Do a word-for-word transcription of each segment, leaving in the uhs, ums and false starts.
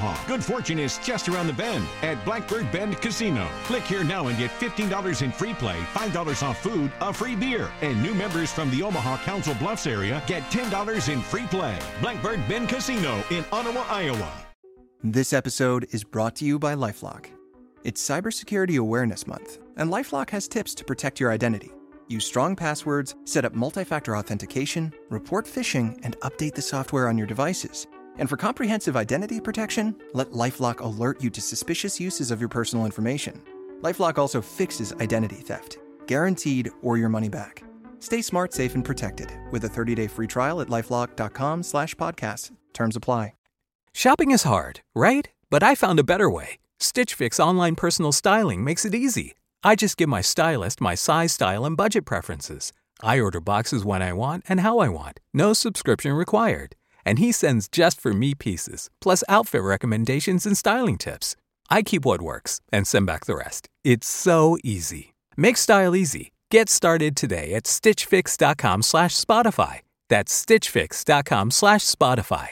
Omaha. Good fortune is just around the bend at Blackbird Bend Casino. Click here now and get fifteen dollars in free play, five dollars off food, a free beer. And new members from the Omaha Council Bluffs area get ten dollars in free play. Blackbird Bend Casino in Ottawa, Iowa. This episode is brought to you by LifeLock. It's Cybersecurity Awareness Month, and LifeLock has tips to protect your identity. Use strong passwords, set up multi-factor authentication, report phishing, and update the software on your devices. And for comprehensive identity protection, let LifeLock alert you to suspicious uses of your personal information. LifeLock also fixes identity theft, guaranteed or your money back. Stay smart, safe, and protected with a thirty-day free trial at LifeLock.com slash podcast. Terms apply. Shopping is hard, right? But I found a better way. Stitch Fix online personal styling makes it easy. I just give my stylist my size, style, and budget preferences. I order boxes when I want and how I want. No subscription required. And he sends just for me pieces, plus outfit recommendations and styling tips. I keep what works and send back the rest. It's so easy. Make style easy. Get started today at stitchfix.com slash Spotify. That's stitchfix.com slash Spotify.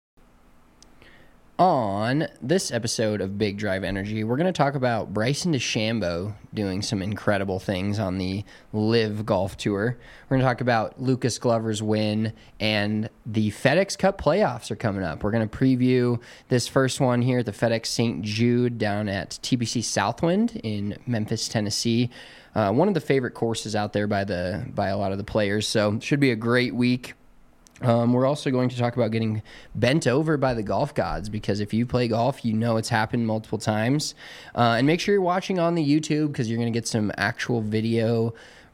On this episode of Big Drive Energy, we're going to talk about Bryson DeChambeau doing some incredible things on the Live Golf Tour. We're going to talk about Lucas Glover's win, and the FedEx Cup playoffs are coming up. We're going to preview this first one here at the FedEx Saint Jude down at T B C Southwind in Memphis, Tennessee. Uh, one of the favorite courses out there by the by a lot of the players, so should be a great week. Um, we're also going to talk about getting bent over by the golf gods, because if you play golf, you know it's happened multiple times. Uh, and make sure you're watching on the YouTube, because you're going to get some actual video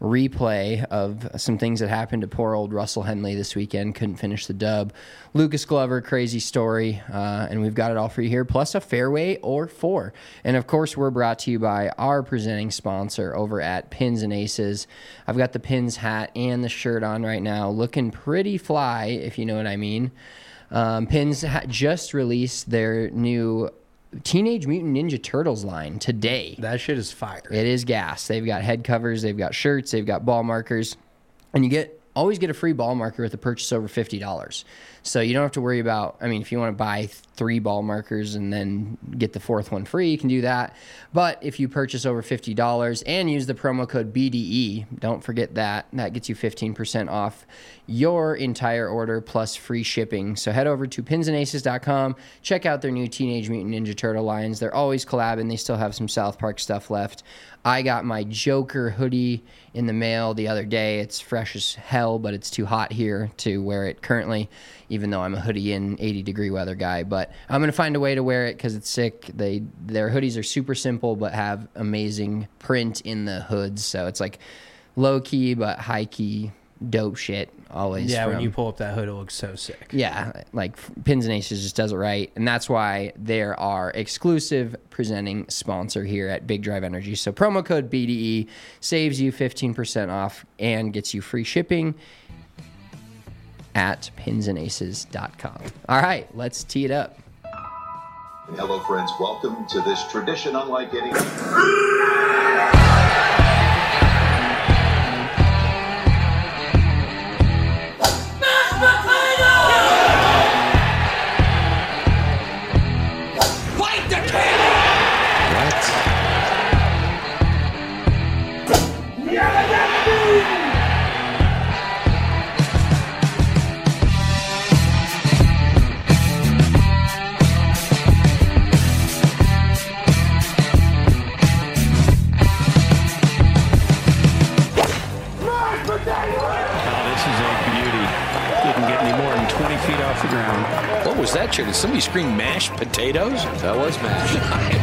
replay of some things that happened to poor old Russell Henley this weekend. Couldn't finish the dub. Lucas Glover, crazy story. Uh, and we've got it all for you here, plus a fairway or four. And of course, we're brought to you by our presenting sponsor over at Pins and Aces. I've got the Pins hat and the shirt on right now, looking pretty fly, if you know what I mean. Um, Pins ha- just released their new Teenage Mutant Ninja Turtles line today. That shit is fire. It is gas. They've got head covers, they've got shirts, they've got ball markers, and you get always get a free ball marker with a purchase over fifty dollars. So you don't have to worry about, I mean, if you want to buy three ball markers and then get the fourth one free, you can do that. But if you purchase over fifty dollars and use the promo code B D E, don't forget that, that gets you fifteen percent off your entire order plus free shipping. So head over to pins and aces dot com, check out their new Teenage Mutant Ninja Turtle lines. They're always collabing. They still have some South Park stuff left. I got my Joker hoodie in the mail the other day. It's fresh as hell, but it's too hot here to wear it currently, even though I'm a hoodie and eighty degree weather guy. But I'm going to find a way to wear it because it's sick. They Their hoodies are super simple but have amazing print in the hoods. So it's like low-key but high-key dope shit always. Yeah, from, when you pull up that hood, it looks so sick. Yeah, like Pins and Aces just does it right. And that's why they're our exclusive presenting sponsor here at Big Drive Energy. So promo code B D E saves you fifteen percent off and gets you free shipping at pins and aces dot com. All right, let's tee it up. Hello, friends. Welcome to this tradition unlike any. What was that, Chair? Did somebody scream mashed potatoes? That was mashed.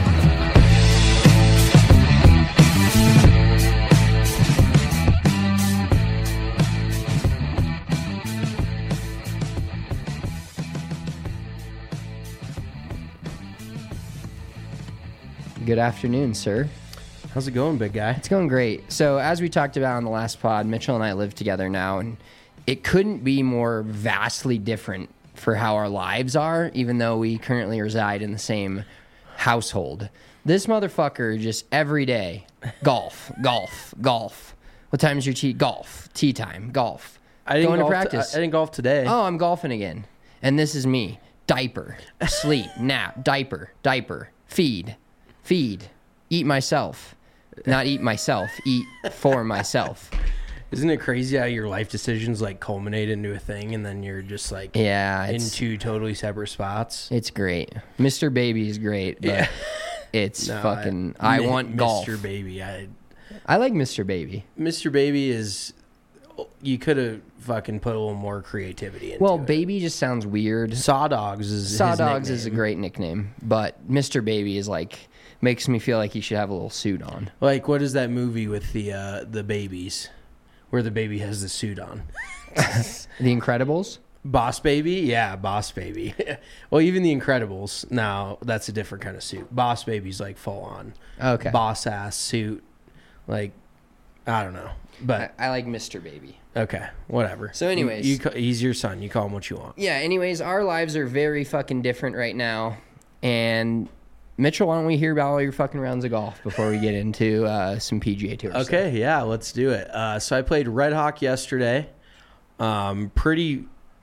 Good afternoon, sir. How's it going, big guy? It's going great. So as we talked about on the last pod, Mitchell and I live together now, and it couldn't be more vastly different for how our lives are, even though we currently reside in the same household. This motherfucker just every day, golf, golf, golf. What time is your tea? Golf. Tea time. Golf. I didn't Going golf to practice. T- I didn't golf today. Oh, I'm golfing again. And this is me. diaper, sleep, nap, diaper, diaper, feed, feed, eat myself. Not eat myself, eat for myself. Isn't it crazy how your life decisions like culminate into a thing and then you're just like Yeah, in it's, two totally separate spots? it's great. Mister Baby is great, but Yeah. it's No, fucking. I, want golf. Mister Baby. I, I like Mister Baby. Mister Baby is. You could have fucking put a little more creativity into Well, it. Baby just sounds weird. Saw Dogs is Saw his Dogs is a nickname. great nickname, but Mister Baby is like makes me feel like he should have a little suit on. Like, what is that movie with the uh, the babies, where the baby has the suit on? The Incredibles. Boss Baby, yeah, Boss Baby. Well, even the Incredibles. No, that's a different kind of suit. Boss Baby's like full on. Okay. Boss ass suit, like I don't know, but I, I like Mister Baby. okay, whatever. So anyways. you, you, ca- he's your son. You call him what you want. Yeah, anyways, our lives are very fucking different right now. And Mitchell, why don't we hear about all your fucking rounds of golf before we get into uh, some P G A Tour stuff? Okay, yeah, let's do it. Uh, so I played Red Hawk yesterday. Um, pretty.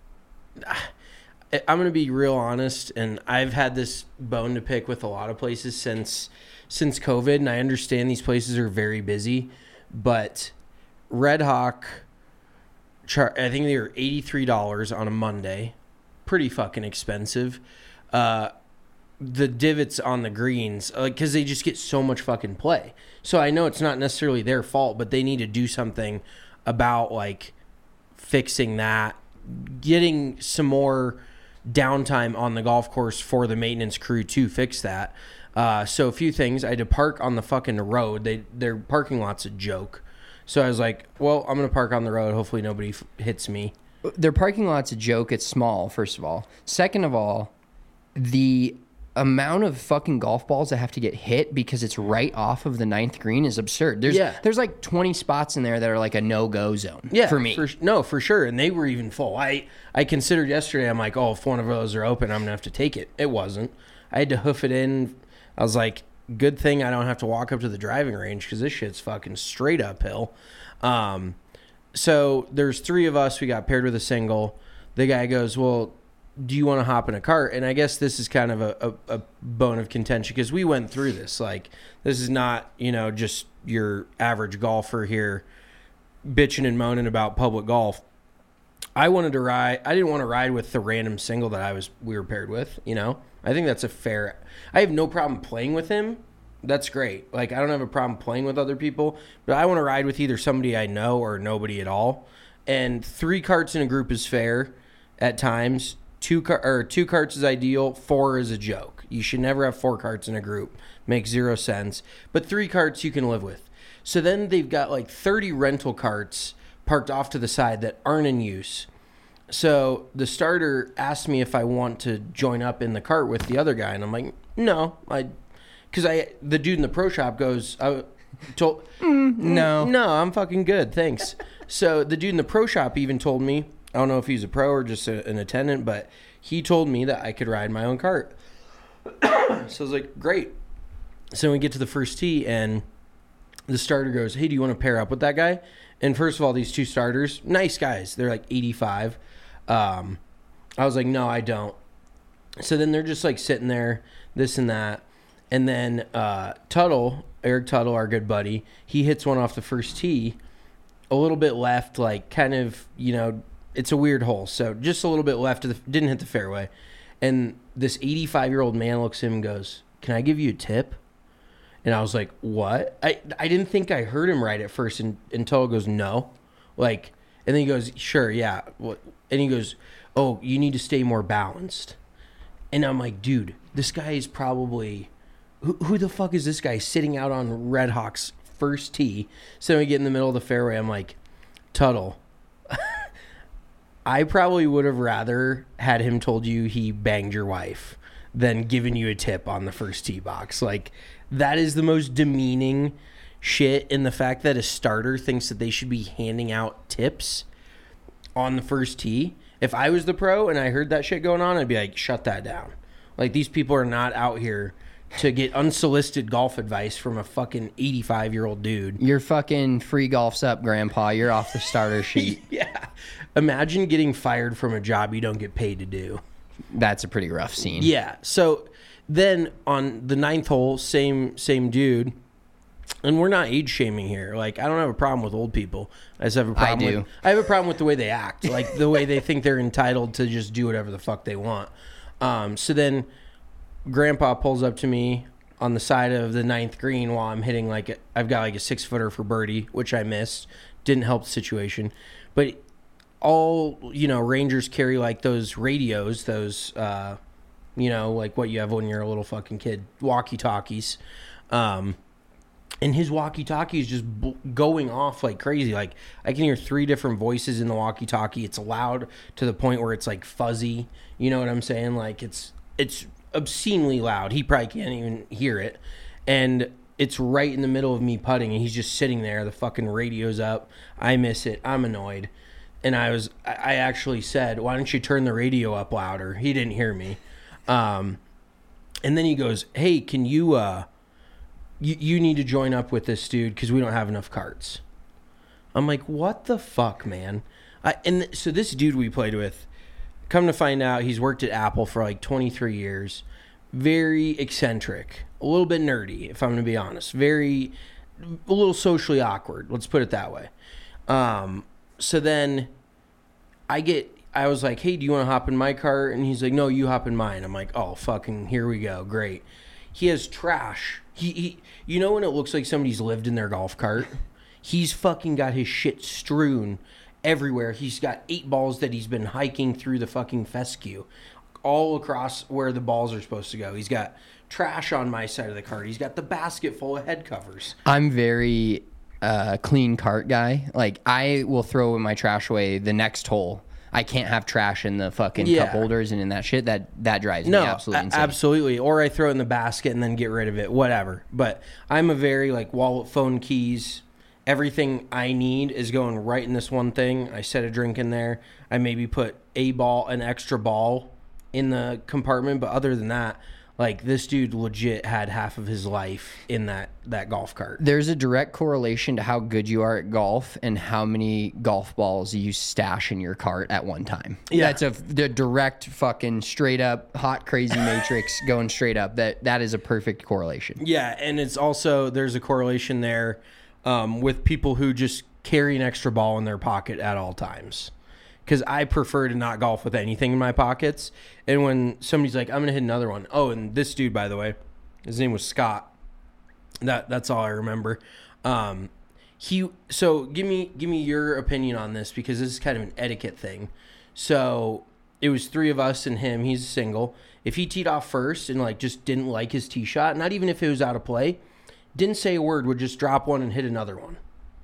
I'm going to be real honest, and I've had this bone to pick with a lot of places since since COVID, and I understand these places are very busy, but Red Hawk, char- I think they were eighty-three dollars on a Monday. Pretty fucking expensive. Uh, the divots on the greens, because they just get so much fucking play. So I know it's not necessarily their fault, but they need to do something about, like, fixing that, getting some more downtime on the golf course for the maintenance crew to fix that. Uh, so a few things. I had to park on the fucking road. They Their parking lot's a joke. So I was like, well, I'm going to park on the road. Hopefully nobody f- hits me. Their parking lot's a joke. It's small, first of all. Second of all, the amount of fucking golf balls that have to get hit because it's right off of the ninth green is absurd. There's Yeah. there's like twenty spots in there that are like a no-go zone Yeah, for me. For, no, for sure. And they were even full. I, I considered yesterday, I'm like, oh, if one of those are open, I'm going to have to take it. It wasn't. I had to hoof it in. I was like, good thing I don't have to walk up to the driving range because this shit's fucking straight uphill. Um, so there's three of us. We got paired with a single. The guy goes, well, do you want to hop in a cart? And I guess this is kind of a, a, a bone of contention because we went through this. Like, this is not, you know, just your average golfer here bitching and moaning about public golf. I wanted to ride. I didn't want to ride with the random single that I was we were paired with. You know, I think that's a fair. I have no problem playing with him. That's great. Like, I don't have a problem playing with other people, but I want to ride with either somebody I know or nobody at all. And three carts in a group is fair at times. Two car or two carts is ideal. Four is a joke. You should never have four carts in a group. Makes zero sense. But three carts you can live with. So then they've got like thirty rental carts parked off to the side that aren't in use. So the starter asked me if I want to join up in the cart with the other guy, and I'm like, no, I, because I the dude in the pro shop goes, I told, Mm, no. no, I'm fucking good, thanks. So the dude in the pro shop even told me, I don't know if he's a pro or just a, an attendant, but he told me that I could ride my own cart. So I was like, great. So we get to the first tee, and the starter goes, hey, do you want to pair up with that guy? And first of all, these two starters, nice guys. They're like eighty-five. Um, I was like, no, I don't. So then they're just like sitting there, this and that. And then uh, Tuttle, Eric Tuttle, our good buddy, he hits one off the first tee, a little bit left, like kind of, you know, it's a weird hole. So just a little bit left of the, didn't hit the fairway. And this eighty-five-year-old man looks at him and goes, can I give you a tip? And I was like, what? I, I didn't think I heard him right at first and, until it goes, no. Like, and then he goes, sure, yeah. And he goes, oh, you need to stay more balanced. And I'm like, dude, this guy is probably, who, who the fuck is this guy sitting out on Red Hawk's first tee? So we get in the middle of the fairway. I'm like, Tuttle, I probably would have rather had him told you he banged your wife than giving you a tip on the first tee box. Like, that is the most demeaning shit, in the fact that a starter thinks that they should be handing out tips on the first tee. If I was the pro and I heard that shit going on, I'd be like, shut that down. Like, these people are not out here to get unsolicited golf advice from a fucking eighty-five-year-old dude. Your fucking free golf's up, Grandpa. You're off the starter sheet. Yeah. Imagine getting fired from a job you don't get paid to do. That's a pretty rough scene. Yeah. So then on the ninth hole, same same dude. And we're not age shaming here. Like, I don't have a problem with old people. I just have a problem I do. with I have a problem with the way they act. Like the way they think they're entitled to just do whatever the fuck they want. Um, so then Grandpa pulls up to me on the side of the ninth green while I'm hitting like a, I've got like a six footer for birdie, which I missed. Didn't help the situation. But all, you know, Rangers carry like those radios, those uh, you know, like what you have when you're a little fucking kid, walkie-talkies. Um And his walkie-talkie is just b- going off like crazy. Like, I can hear three different voices in the walkie-talkie. It's loud to the point where it's, like, fuzzy. You know what I'm saying? Like, it's it's obscenely loud. He probably can't even hear it. And it's right in the middle of me putting, and he's just sitting there. The fucking radio's up. I miss it. I'm annoyed. And I was, I actually said, why don't you turn the radio up louder? He didn't hear me. Um, and then he goes, hey, can you... uh You, you need to join up with this dude because we don't have enough carts. I'm like, what the fuck, man? I, and th- so this dude we played with, come to find out, he's worked at Apple for like twenty-three years. Very eccentric. A little bit nerdy, if I'm going to be honest. Very, a little socially awkward. Let's put it that way. Um, so then I get, I was like, hey, do you want to hop in my car? And he's like, no, you hop in mine. I'm like, oh, fucking, here we go. Great. He has trash. He, he, you know when it looks like somebody's lived in their golf cart? He's fucking got his shit strewn everywhere. He's got eight balls that he's been hiking through the fucking fescue, all across where the balls are supposed to go. He's got trash on my side of the cart. He's got the basket full of head covers. I'm very uh, clean cart guy. Like, I will throw my trash away the next hole. I can't have trash in the fucking Yeah. cup holders and in that shit. That that drives No, me absolutely a- insane. absolutely. Or I throw it in the basket and then get rid of it, whatever. But I'm a very, like, wallet, phone, keys, everything I need is going right in this one thing. I set a drink in there. I maybe put a ball, an extra ball in the compartment. But other than that, like, this dude legit had half of his life in that, that golf cart. There's a direct correlation to how good you are at golf and how many golf balls you stash in your cart at one time. Yeah. That's a the direct fucking straight up hot crazy matrix going straight up. That that is a perfect correlation. Yeah, and it's also, there's a correlation there um, with people who just carry an extra ball in their pocket at all times. Because I prefer to not golf with anything in my pockets. And when somebody's like, I'm going to hit another one. Oh, and this dude, by the way, his name was Scott. That That's all I remember. Um, he So give me give me your opinion on this, because this is kind of an etiquette thing. So it was three of us and him. He's single. If he teed off first and like just didn't like his tee shot, not even if it was out of play, didn't say a word, would just drop one and hit another one.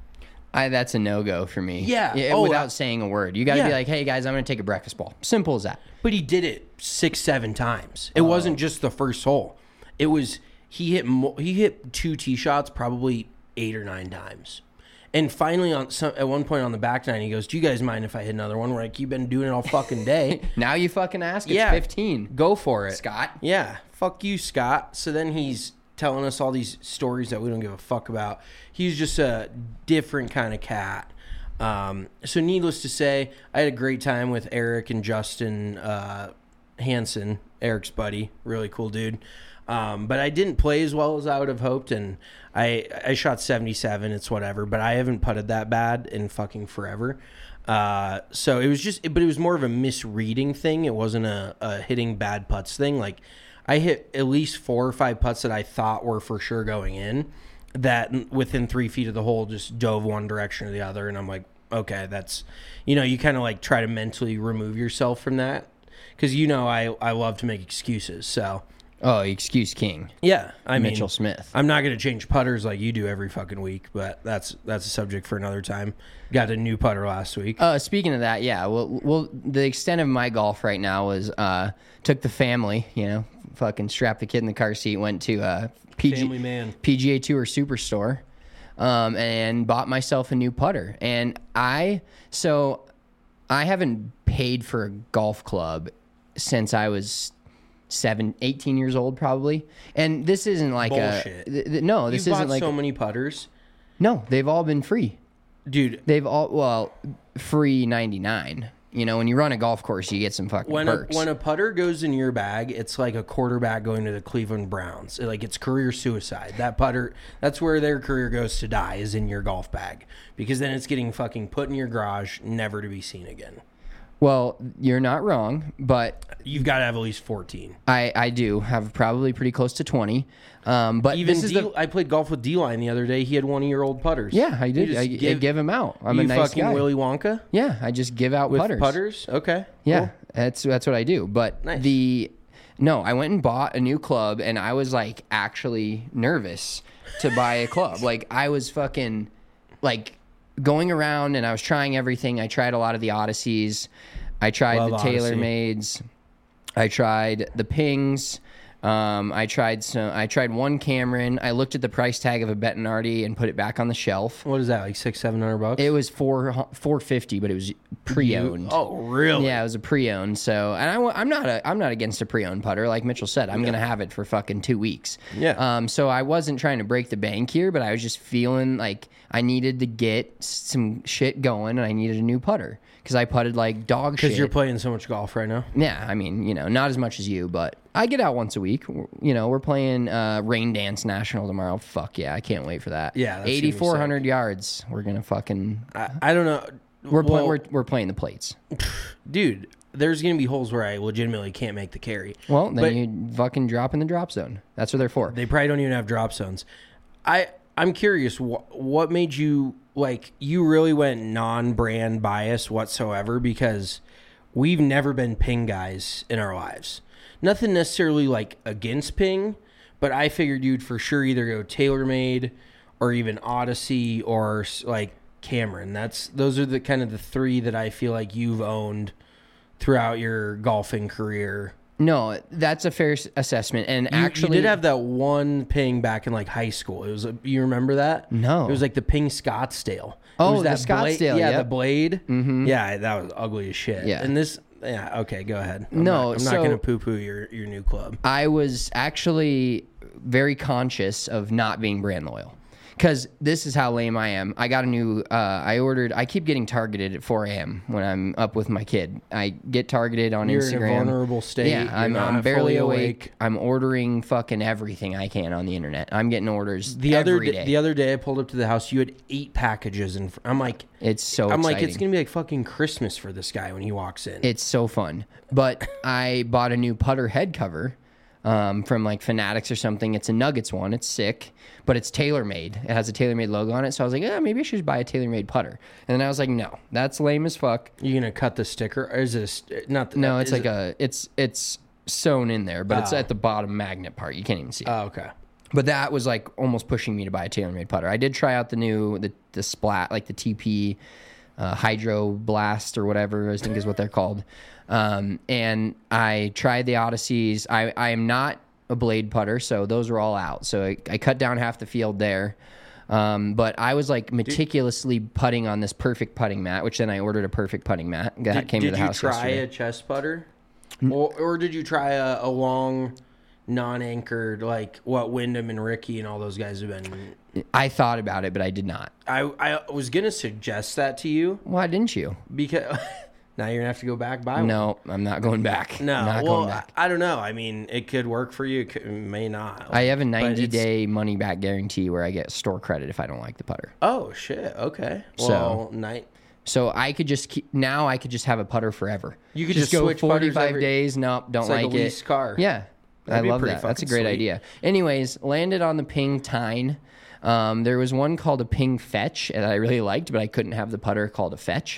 I, that's a no-go for me. Yeah. Oh, without I- saying a word. You got to Yeah. be like, hey, guys, I'm going to take a breakfast ball. Simple as that. But he did it six, seven times. It wasn't just the first hole. It was he hit mo- he hit two tee shots probably eight or nine times. And finally, on some, at one point on the back nine, he goes, "Do you guys mind if I hit another one?" We're like, "You've been doing it all fucking day." Now you fucking ask. It's Yeah. fifteen. Go for it, Scott. Yeah, fuck you, Scott. So then he's telling us all these stories that we don't give a fuck about. He's just a different kind of cat. Um, so needless to say, I had a great time with Eric and Justin uh, Hansen, Eric's buddy, really cool dude. Um, but I didn't play as well as I would have hoped, and I I shot seventy-seven. It's whatever, but I haven't putted that bad in fucking forever. Uh, so it was just, but it was more of a misreading thing. It wasn't a, a hitting bad putts thing. Like, I hit at least four or five putts that I thought were for sure going in, that within three feet of the hole just dove one direction or the other. And I'm like, okay, that's, you know, you kind of like try to mentally remove yourself from that. Cause you know, I, I love to make excuses. So Oh, excuse king. yeah, I mean, Mitchell Smith. I'm not going to change putters like you do every fucking week, but that's, that's a subject for another time. Got a new putter last week. Uh, speaking of that, yeah. Well, well, the extent of my golf right now was uh, took the family, you know, fucking strapped the kid in the car seat, went to uh, P G, Family man. P G A Tour Superstore, um, and bought myself a new putter. And I, so I haven't paid for a golf club since I was seven, eighteen years old, probably. And this isn't like Bullshit. a th- th- no. This You've isn't bought like so many putters, no. They've all been free. dude. They've all well free ninety nine. You know, when you run a golf course, you get some fucking When a, perks. when a putter goes in your bag, it's like a quarterback going to the Cleveland Browns. It- Like it's career suicide. That putter, that's where their career goes to die, is in your golf bag. Because then it's getting fucking put in your garage, never to be seen again. Well, you're not wrong, but You've got to have at least fourteen. I, I do have probably pretty close to twenty. Um, but Even this is D, the, I played golf with D-Line the other day. He had one of your old putters. yeah, I You did. just I give, I give him out. I'm you a nice fucking guy. Willy Wonka Yeah, I just give out with putters. putters. Okay. Yeah, cool. that's that's what I do. But Nice. the no, I went and bought a new club, and I was like actually nervous to buy a club. Like I was fucking like going around, and I was trying everything. I tried a lot of the Odysseys. I tried Love the Odyssey. TaylorMades. I tried the Pings. Um, I tried some. I tried one Cameron. I looked at the price tag of a Bettinardi and put it back on the shelf. What is that? Like six, seven hundred bucks? It was four four fifty, but it was pre-owned. Oh, really? Yeah, it was a pre-owned. So, and I, wa- I'm not a, I'm not against a pre-owned putter. Like Mitchell said, I'm gonna have it for fucking two weeks. Yeah. Um. So I wasn't trying to break the bank here, but I was just feeling like I needed to get some shit going, and I needed a new putter because I putted like dog shit. Because you're playing so much golf right now. Yeah, I mean, you know, not as much as you, but I get out once a week. You know, we're playing uh, Rain Dance National tomorrow. Fuck yeah, I can't wait for that. Yeah, that's gonna be eighty-four hundred yards. We're gonna fucking. I, I don't know. We're, well, play, we're we're playing the plates. dude, there's gonna be holes where I legitimately can't make the carry. Well, then But you fucking drop in the drop zone. That's what they're for. they probably don't even have drop zones. I I'm curious. What what made you like? You really went non-brand bias whatsoever, because we've never been Ping guys in our lives. Nothing necessarily like against Ping, but I figured you'd for sure either go TaylorMade or even Odyssey or like Cameron. That's those are the kind of the three that I feel like you've owned throughout your golfing career. No, that's a fair s- assessment. And You, actually, you did have that one Ping back in like high school. It was a, you remember that? No. It was like the Ping Scottsdale. Oh, it was the that blade- Scottsdale, yeah, yep. the blade. Mm-hmm. Yeah, that was ugly as shit. Yeah. And this, yeah, okay, go ahead. I'm No, not, I'm not so- going to poo-poo your your new club. I was actually very conscious of not being brand loyal. Because this is how lame I am. I got a new, uh, I ordered, I keep getting targeted at four a.m. when I'm up with my kid. I get targeted on You're Instagram. in a vulnerable state. Yeah, You're I'm, not I'm barely fully awake. awake. I'm ordering fucking everything I can on the internet. I'm getting orders The other every d- day. the other day I pulled up to the house. You had eight packages, and I'm like, it's so I'm exciting. like, it's gonna be like fucking Christmas for this guy when he walks in. It's so fun. But I bought a new putter head cover um, from like Fanatics or something. It's a Nuggets one. It's sick, but it's TaylorMade. It has a TaylorMade logo on it. So I was like, yeah, maybe I should buy a TaylorMade putter. And then I was like, no, that's lame as fuck. You gonna cut the sticker? Or is it a st- not? The, No, it's is like it- a it's it's sewn in there, but it's Oh. at the bottom magnet part. You can't even see it. Oh, okay. But that was like almost pushing me to buy a TaylorMade putter. I did try out the new the the Splat, like the T P uh, Hydro Blast or whatever I think is what they're called. Um, and I tried the Odysseys. I I am not a blade putter, so those were all out. So I, I cut down half the field there. Um, but I was like meticulously putting on this perfect putting mat, which then I ordered a perfect putting mat. That Did, came did to the you house try yesterday. a chest putter, or, or did you try a, a long, non-anchored like what Wyndham and Ricky and all those guys have been? I thought about it, but I did not. I I was gonna suggest that to you Why didn't you? because now you're gonna have to go back buy one. No, I'm not going back. No, not well, going back. I, I don't know. I mean, it could work for you. It, could, it may not. I have a But ninety it's- day money back guarantee where I get store credit if I don't like the putter. Oh shit. Okay. So- Well, night. So I could just keep now. I could just have a putter forever. You could just go switch putters forty-five every- days. Nope, don't It's like a like it. leased car. Yeah, That'd I be love pretty that. That's a fucking great sweet. idea. Anyways, landed on the Ping Tine. Um, there was one called a Ping Fetch that I really liked, but I couldn't have the putter called a Fetch.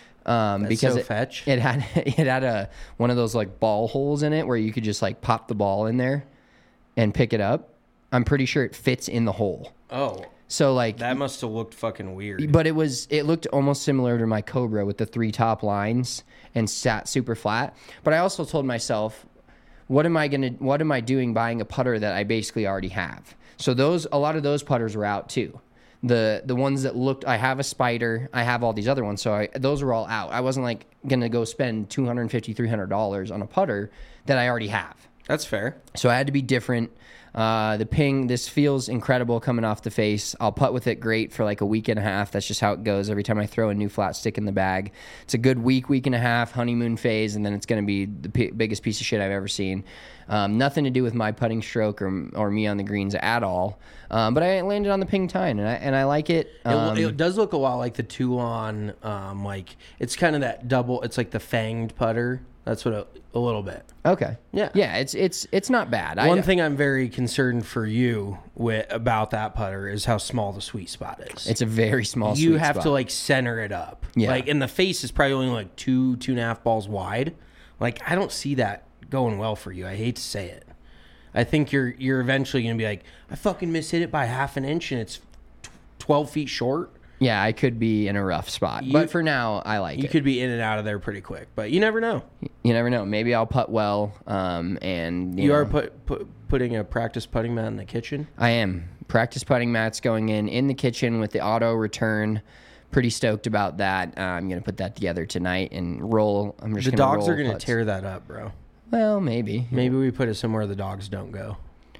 Um, That's because so it, fetch. it had it had a one of those like ball holes in it where you could just like pop the ball in there and pick it up. I'm pretty sure it fits in the hole. Oh, So like that must have looked fucking weird. but it was it looked almost similar to my Cobra with the three top lines and sat super flat. But I also told myself, what am I gonna what am I doing buying a putter that I basically already have? So those a lot of those putters were out too. The the ones that looked I have a Spider, I have all these other ones, so I, those were all out. I wasn't like gonna go spend two hundred fifty, three hundred dollars on a putter that I already have. That's fair. So I had to be different. Uh, the ping, this feels incredible coming off the face. I'll putt with it great for like a week and a half. That's just how it goes every time I throw a new flat stick in the bag. It's a good week, week and a half, honeymoon phase, and then it's going to be the p- biggest piece of shit I've ever seen. Um, nothing to do with my putting stroke or or me on the greens at all. Um, but I landed on the ping tine, and I and I like it. Um, it. It does look a lot like the Toulon, um, like it's kind of that double. It's like the fanged putter. That's what a, a little bit. Okay. Yeah. Yeah. It's it's it's not bad. One I, thing I'm very concerned for you with about that putter is how small the sweet spot is. It's a very small. You sweet have spot. to like center it up. Yeah. Like, and the face is probably only like two two and a half balls wide. Like, I don't see that going well for you. I hate to say it. I think you're you're eventually gonna be like, I fucking mishit it by half an inch and it's twelve feet short. Yeah, I could be in a rough spot, You- but for now, I like You it. could be in and out of there pretty quick, but you never know. You never know. Maybe I'll putt well. Um, and you, You know, are put, put putting a practice putting mat in the kitchen. I am practice putting mats going in in the kitchen with the auto return. Pretty stoked about that. Uh, I'm gonna put that together tonight and roll. I'm just The gonna dogs roll are gonna putts. tear that up, bro. Well, maybe. Maybe we put it somewhere the dogs don't go,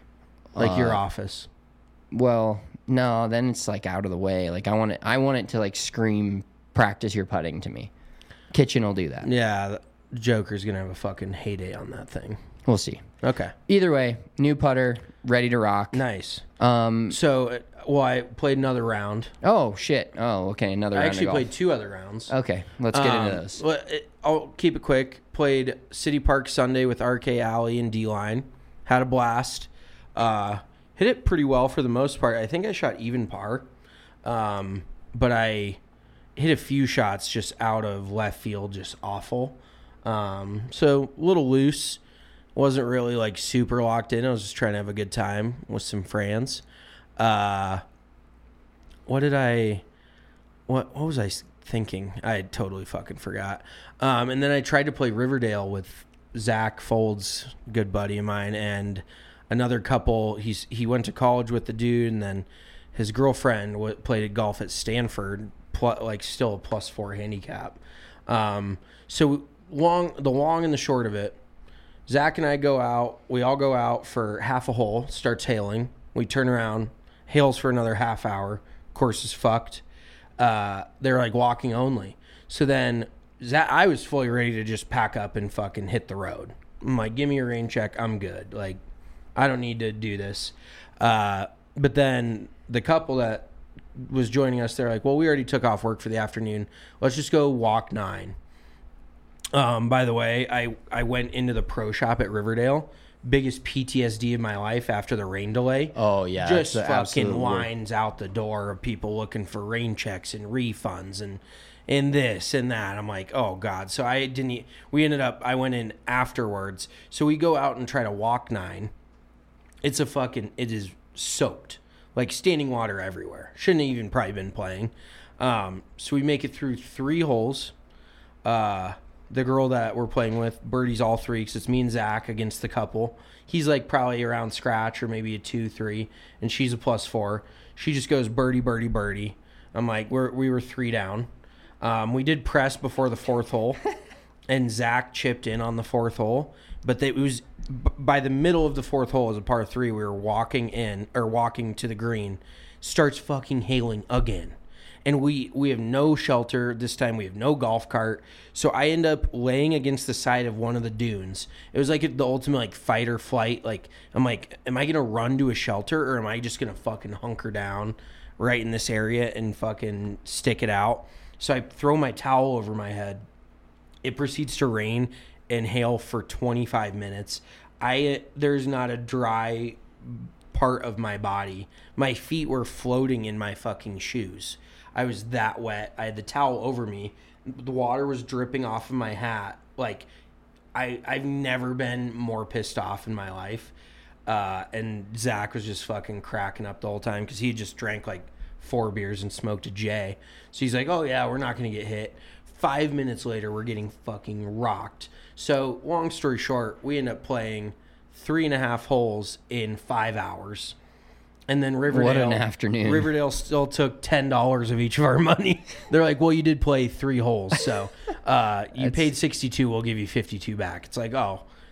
like Uh, your office. Well, no, then it's like out of the way. Like I want it. I want it to like scream, "Practice your putting" to me. Kitchen will do that. Yeah, the Joker's gonna have a fucking heyday on that thing. We'll see. Okay, Either way, new putter, ready to rock. nice. Um. So, uh, well, I played another round. Oh shit. Oh, okay. Another I round actually of golf. played two other rounds. Okay, let's get Um, into those. well, it- I'll keep it quick. Played City Park Sunday with R K Alley and D-Line. Had a blast. Uh, hit it pretty well for the most part. I think I shot even par. Um, but I hit a few shots just out of left field, just awful. Um, so a little loose. Wasn't really like super locked in. I was just trying to have a good time with some friends. Uh, what did I... What what was I thinking? I totally fucking forgot. Um, and then I tried to play Riverdale with Zach Folds, good buddy of mine, and another couple. He's he went to college with the dude, and then his girlfriend w- played golf at Stanford, pl- like still a plus four handicap. Um, so long, the long and the short of it, Zach and I go out. We all go out for half a hole. Starts hailing. We turn around, hails for another half hour. Course is fucked. Uh, they're like walking only. So then Zach, I was fully ready to just pack up and fucking hit the road. I'm like, give me a rain check. I'm good. Like, I don't need to do this. Uh, but then the couple that was joining us, they're like, well, we already took off work for the afternoon. Let's just go walk nine. Um, by the way, I, I went into the pro shop at Riverdale. Biggest P T S D of my life after the rain delay. Oh, yeah, Just that's the absolute fucking worst. lines out the door of people looking for rain checks and refunds and and this and that. I'm like, oh God. So I didn't e- we ended up I went in afterwards. So we go out and try to walk nine. It's a fucking it is soaked. Like standing water everywhere. Shouldn't have even probably been playing. Um, so we make it through three holes. Uh The girl that we're playing with, birdies all three, because it's me and Zach against the couple. He's like probably around scratch or maybe a two, three, and she's a plus four. She just goes birdie, birdie, birdie. I'm like, we're, we were three down. Um, we did press before the fourth hole, and Zach chipped in on the fourth hole. But they, it was b- by the middle of the fourth hole as a par three, we were walking in or walking to the green. Starts fucking hailing again. And we, we have no shelter. This time we have no golf cart. So I end up laying against the side of one of the dunes. It was like the ultimate like fight or flight. Like, I'm like, am I going to run to a shelter or am I just going to fucking hunker down right in this area and fucking stick it out? So I throw my towel over my head. It proceeds to rain and hail for twenty-five minutes. I There's not a dry part of my body. My feet were floating in my fucking shoes. I was that wet. I had the towel over me. The water was dripping off of my hat. Like, I, I've never been more pissed off in my life. Uh, and Zach was just fucking cracking up the whole time because he just drank like four beers and smoked a J. So he's like, oh, yeah, we're not going to get hit. Five minutes later, we're getting fucking rocked. So, long story short, we end up playing three and a half holes in five hours. And then Riverdale. What an afternoon. Riverdale still took ten dollars of each of our money. They're like, well, you did play three holes. So uh, you paid sixty-two, we'll give you fifty-two back. It's like, oh,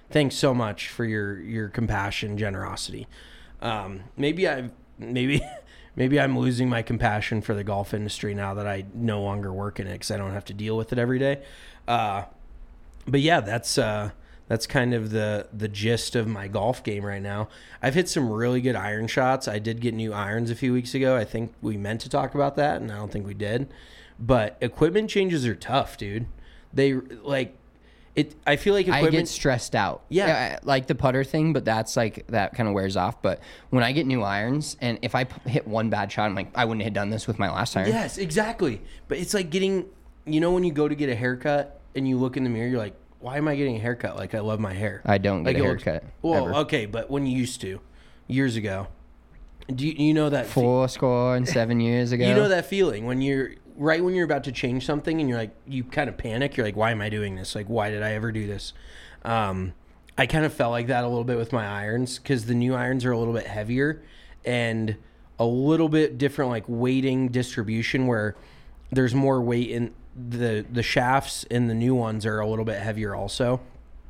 thanks so much for your your compassion, generosity. Um, maybe I maybe maybe I'm losing my compassion for the golf industry now that I no longer work in it because I don't have to deal with it every day. Uh, but yeah, that's uh, that's kind of the the gist of my golf game right now. I've hit some really good iron shots. I did get new irons a few weeks ago. I think we meant to talk about that, and I don't think we did. But equipment changes are tough, dude. They like it. I feel like equipment. I get stressed out. Yeah. I, like the putter thing, but that's like that kind of wears off. But when I get new irons, and if I p- hit one bad shot, I'm like, I wouldn't have done this with my last iron. Yes, exactly. But it's like getting, you know, when you go to get a haircut and you look in the mirror, you're like, why am I getting a haircut? Like, I love my hair. I don't get like, a looks, haircut. Well, ever. okay, but when you used to, years ago, do you, you know that fe- Four score and seven years ago. You know that feeling when you're right when you're about to change something and you're like, you kind of panic. You're like, why am I doing this? Like, why did I ever do this? Um, I kind of felt like that a little bit with my irons because the new irons are a little bit heavier and a little bit different, like weighting distribution where there's more weight in the the shafts and the new ones are a little bit heavier also.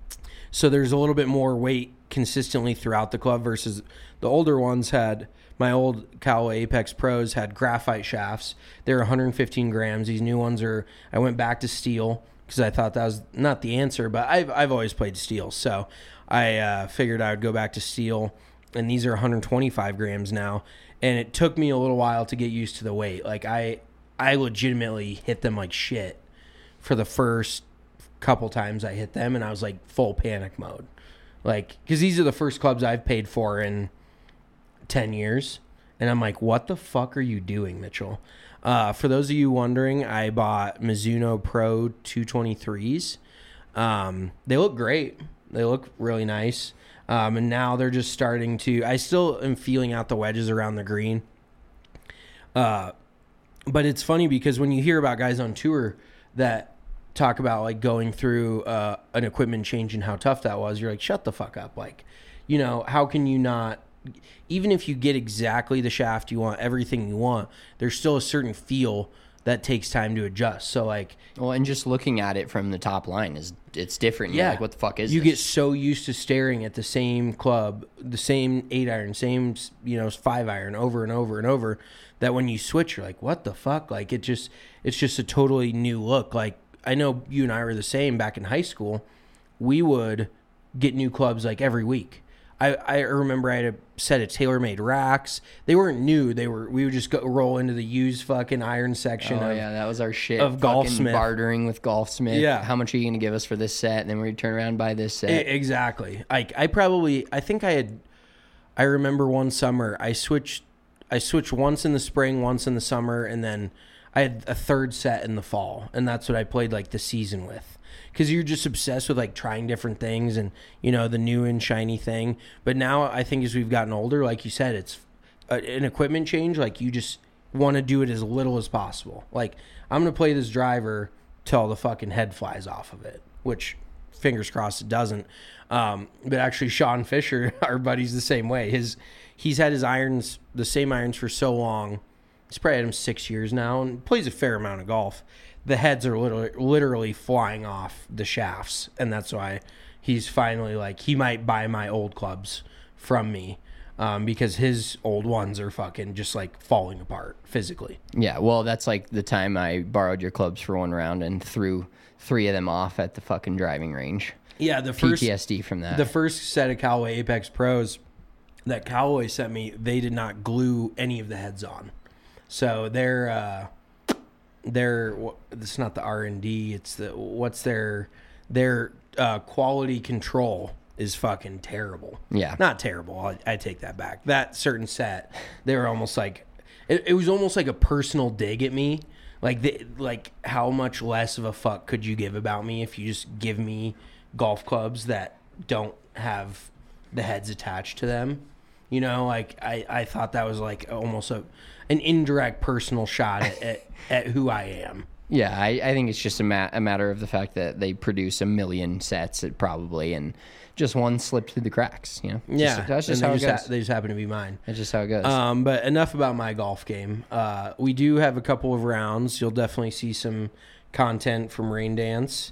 So there's a little bit more weight consistently throughout the club versus the older ones had. My old Callaway Apex Pros had graphite shafts. They're one hundred fifteen grams. These new ones are, I went back to steel because I thought that was not the answer, but I've, I've always played steel. So I uh, figured I would go back to steel, and these are one hundred twenty-five grams now. And it took me a little while to get used to the weight. Like I, I legitimately hit them like shit for the first couple times I hit them, and I was like full panic mode. Like, because these are the first clubs I've paid for in ten years, and I'm like, what the fuck are you doing, Mitchell? Uh, for those of you wondering, I bought Mizuno Pro two twenty-threes. Um, they look great. They look really nice. Um, and now they're just starting to, I still am feeling out the wedges around the green. Uh, but it's funny because when you hear about guys on tour that talk about like going through uh, an equipment change and how tough that was, you're like, shut the fuck up. Like, you know, how can you not, even if you get exactly the shaft you want, everything you want, there's still a certain feel that takes time to adjust. So like, well, and just looking at it from the top line is it's different. You're yeah, like, what the fuck is you this? get so used to staring at the same club, the same eight iron, same, you know, five iron over and over and over, that when you switch, you're like, what the fuck? Like it just, it's just a totally new look. Like I know you and I were the same back in high school. We would get new clubs like every week. I, I remember I had a set of TaylorMade racks. They weren't new. They were. We would just go roll into the used fucking iron section. Oh of, yeah, that was our shit. of Fucking Golfsmith. bartering with Golfsmith. Yeah. How much are you gonna give us for this set? And then we'd turn around and buy this set. I, exactly. Like I probably. I think I had. I remember one summer I switched. I switched once in the spring, once in the summer, and then I had a third set in the fall, and that's what I played like the season with. Because you're just obsessed with like trying different things and, you know, the new and shiny thing. But now I think as we've gotten older, like you said, it's a, an equipment change. Like you just want to do it as little as possible. Like I'm going to play this driver till the fucking head flies off of it, which fingers crossed it doesn't. Um, but actually Sean Fisher, our buddy's the same way. His He's had his irons, the same irons for so long. He's probably had them six years now and plays a fair amount of golf. The heads are literally, literally flying off the shafts, and that's why he's finally like, he might buy my old clubs from me um, because his old ones are fucking just like falling apart physically. Yeah, well, that's like the time I borrowed your clubs for one round and threw three of them off at the fucking driving range. Yeah, the first P T S D from that. The first set of Callaway Apex Pros that Callaway sent me, they did not glue any of the heads on, so they're. Uh, Their it's not the R and D, it's the what's their their uh, quality control is fucking terrible. Yeah, not terrible. I, I take that back. That certain set, they were almost like it, it was almost like a personal dig at me. Like the, like how much less of a fuck could you give about me if you just give me golf clubs that don't have the heads attached to them? You know, like I, I thought that was like almost a an indirect personal shot at, at, at who I am. Yeah, I, I think it's just a, ma- a matter of the fact that they produce a million sets probably, and just one slipped through the cracks. You know, Yeah, just, that's just and how they it just goes. Ha- they just happen to be mine. That's just how it goes. Um, but enough about my golf game. Uh, we do have a couple of rounds. You'll definitely see some content from Rain Dance,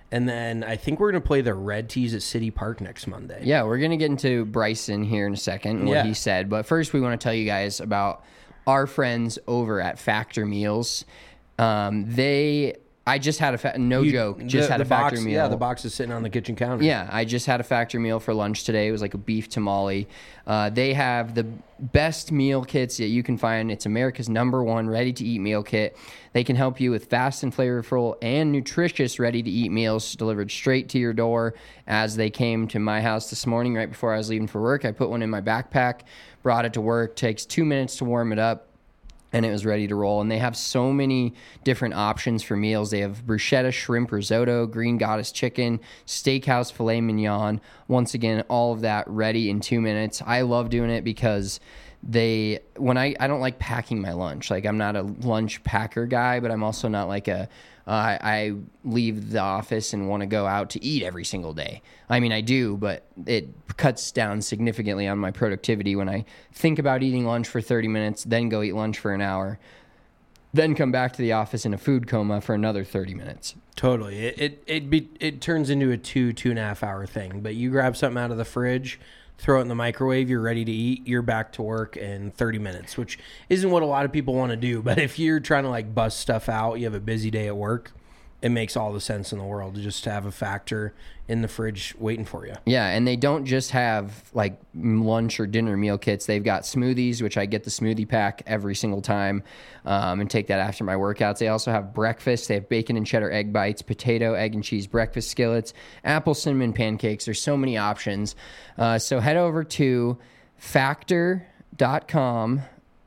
And then I think we're going to play the Red Tees at City Park next Monday. Yeah, we're going to get into Bryson here in a second and what Yeah. he said. But first, we want to tell you guys about our friends over at Factor Meals. Um, they, I just had a, fa- no You- joke, just the- had the a Factor box, meal. Yeah, the box is sitting on the kitchen counter. Yeah, I just had a Factor meal for lunch today. It was like a beef tamale. Uh, they have the best meal kits that you can find. It's America's number one ready-to-eat meal kit. They can help you with fast and flavorful and nutritious ready-to-eat meals delivered straight to your door. As they came to my house this morning right before I was leaving for work, I put one in my backpack, brought it to work. Takes two minutes to warm it up, and it was ready to roll. And they have so many different options for meals. They have bruschetta shrimp risotto, green goddess chicken, steakhouse filet mignon. Once again, all of that ready in two minutes. I love doing it because they, when I, I don't like packing my lunch. Like, I'm not a lunch packer guy, but I'm also not like a, uh, I, I leave the office and want to go out to eat every single day. I mean, I do, but it cuts down significantly on my productivity when I think about eating lunch for thirty minutes, then go eat lunch for an hour, then come back to the office in a food coma for another thirty minutes. Totally. It it it, be, it turns into a two, two and a half hour thing. But you grab something out of the fridge, throw it in the microwave, you're ready to eat, you're back to work in thirty minutes, which isn't what a lot of people want to do. But if you're trying to like bust stuff out, you have a busy day at work, it makes all the sense in the world to just have a Factor in the fridge waiting for you. Yeah, and they don't just have like lunch or dinner meal kits. They've got smoothies, which I get the smoothie pack every single time um, and take that after my workouts. They also have breakfast. They have bacon and cheddar egg bites, potato, egg and cheese breakfast skillets, apple cinnamon pancakes. There's so many options. Uh, so head over to factor dot com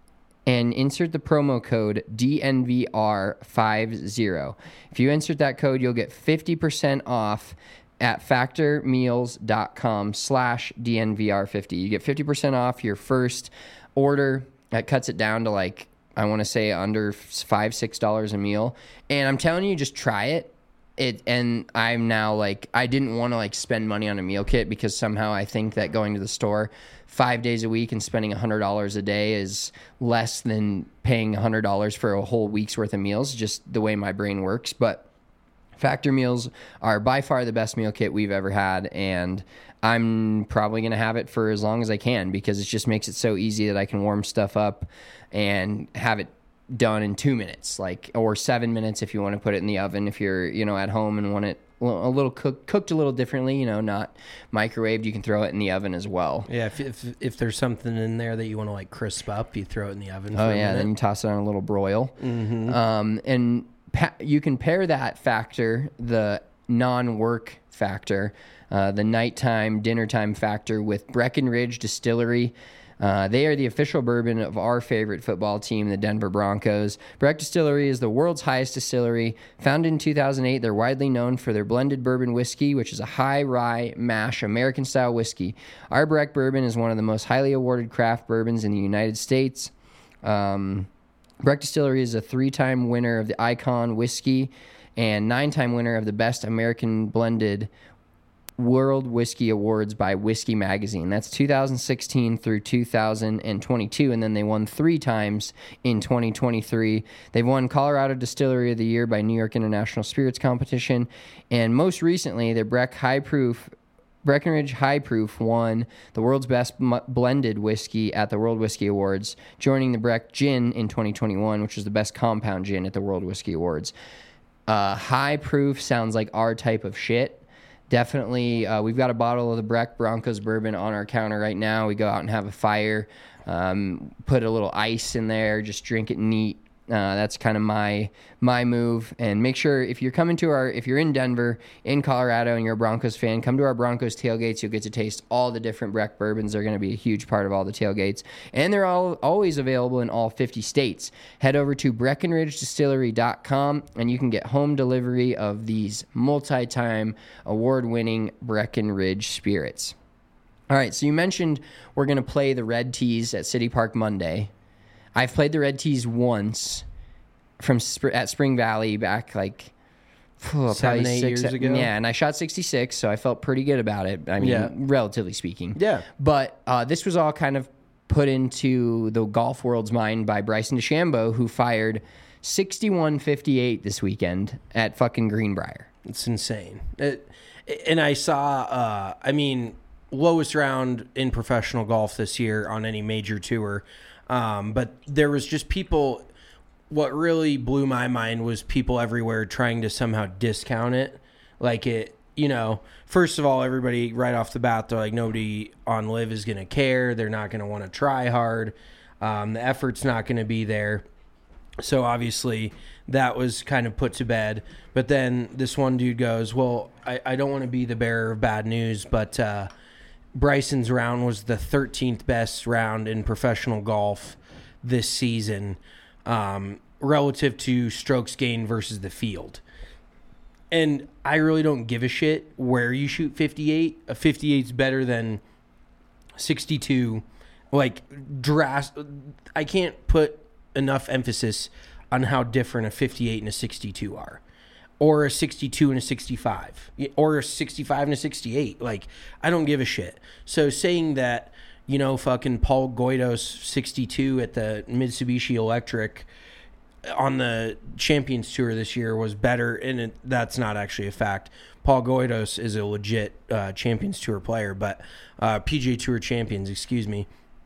and insert the promo code D N V R fifty. If you insert that code, you'll get fifty percent off at factormeals.com slash DNVR50. You get fifty percent off your first order. That cuts it down to like, I want to say under five, six dollars a meal. And I'm telling you, just try it. It, and I'm now like, I didn't want to like spend money on a meal kit because somehow I think that going to the store five days a week and spending one hundred dollars a day is less than paying one hundred dollars for a whole week's worth of meals, just the way my brain works. But Factor meals are by far the best meal kit we've ever had, and I'm probably going to have it for as long as I can because it just makes it so easy that I can warm stuff up and have it done in two minutes, like, or seven minutes if you want to put it in the oven if you're, you know, at home and want it a little cook, cooked a little differently, you know, not microwaved. You can throw it in the oven as well. Yeah, if if, if there's something in there that you want to like crisp up, you throw it in the oven. For Oh a yeah, minute. then you toss it on a little broil. Mm-hmm. Um, and pa- you can pair that Factor, the non-work Factor, uh, the nighttime, dinner time Factor, with Breckenridge Distillery. Uh, they are the official bourbon of our favorite football team, the Denver Broncos. Breck Distillery is the world's highest distillery. Founded in two thousand eight, they're widely known for their blended bourbon whiskey, which is a high rye mash American-style whiskey. Our Breck bourbon is one of the most highly awarded craft bourbons in the United States. Um, Breck Distillery is a three-time winner of the Icon Whiskey and nine-time winner of the Best American Blended World Whiskey Awards by Whiskey Magazine. That's two thousand sixteen through two thousand twenty-two, and then they won three times in twenty twenty-three. They've won Colorado Distillery of the Year by New York International Spirits Competition, and most recently, their Breck High Proof Breckenridge High Proof won the world's best m- blended whiskey at the World Whiskey Awards, joining the Breck Gin in twenty twenty-one, which was the best compound gin at the World Whiskey Awards. Uh, high Proof sounds like our type of shit. Definitely, uh, we've got a bottle of the Breck Broncos bourbon on our counter right now. We go out and have a fire, um, put a little ice in there, just drink it neat. Uh, that's kind of my my move. And make sure if you're coming to our, if you're in Denver, in Colorado, and you're a Broncos fan, come to our Broncos tailgates. You'll get to taste all the different Breck bourbons. They're going to be a huge part of all the tailgates. And they're all always available in all fifty states. Head over to Breckenridge Distillery dot com and you can get home delivery of these multi-time award-winning Breckenridge spirits. All right, so you mentioned we're going to play the Red Tees at City Park Monday. I've played the Red Tees once from Sp- at Spring Valley back like oh, Seven, probably eight six, years ago? Yeah, and I shot sixty-six, so I felt pretty good about it. I mean, Yeah. relatively speaking. Yeah. But uh, this was all kind of put into the golf world's mind by Bryson DeChambeau, who fired sixty-one fifty-eight this weekend at fucking Greenbrier. It's insane. It, and I saw, uh, I mean, lowest round in professional golf this year on any major tour. Um, but there was just people, what really blew my mind was people everywhere trying to somehow discount it. Like it, you know, first of all, everybody right off the bat, they're like, nobody on Live is going to care. They're not going to want to try hard. Um, the effort's not going to be there. So obviously that was kind of put to bed. But then this one dude goes, well, I, I don't want to be the bearer of bad news, but uh, Bryson's round was the thirteenth best round in professional golf this season, um, relative to strokes gained versus the field. And I really don't give a shit where you shoot fifty-eight. A fifty-eight's better than sixty-two. Like, dras- I can't put enough emphasis on how different a fifty-eight and a sixty-two are, or a sixty-two and a sixty-five, or a sixty-five and a sixty-eight. Like, I don't give a shit. So saying that, you know, fucking Paul Goydos sixty-two at the Mitsubishi Electric on the Champions Tour this year was better, and it, that's not actually a fact. Paul Goydos is a legit uh, Champions Tour player, but uh, P G A Tour champions, excuse me.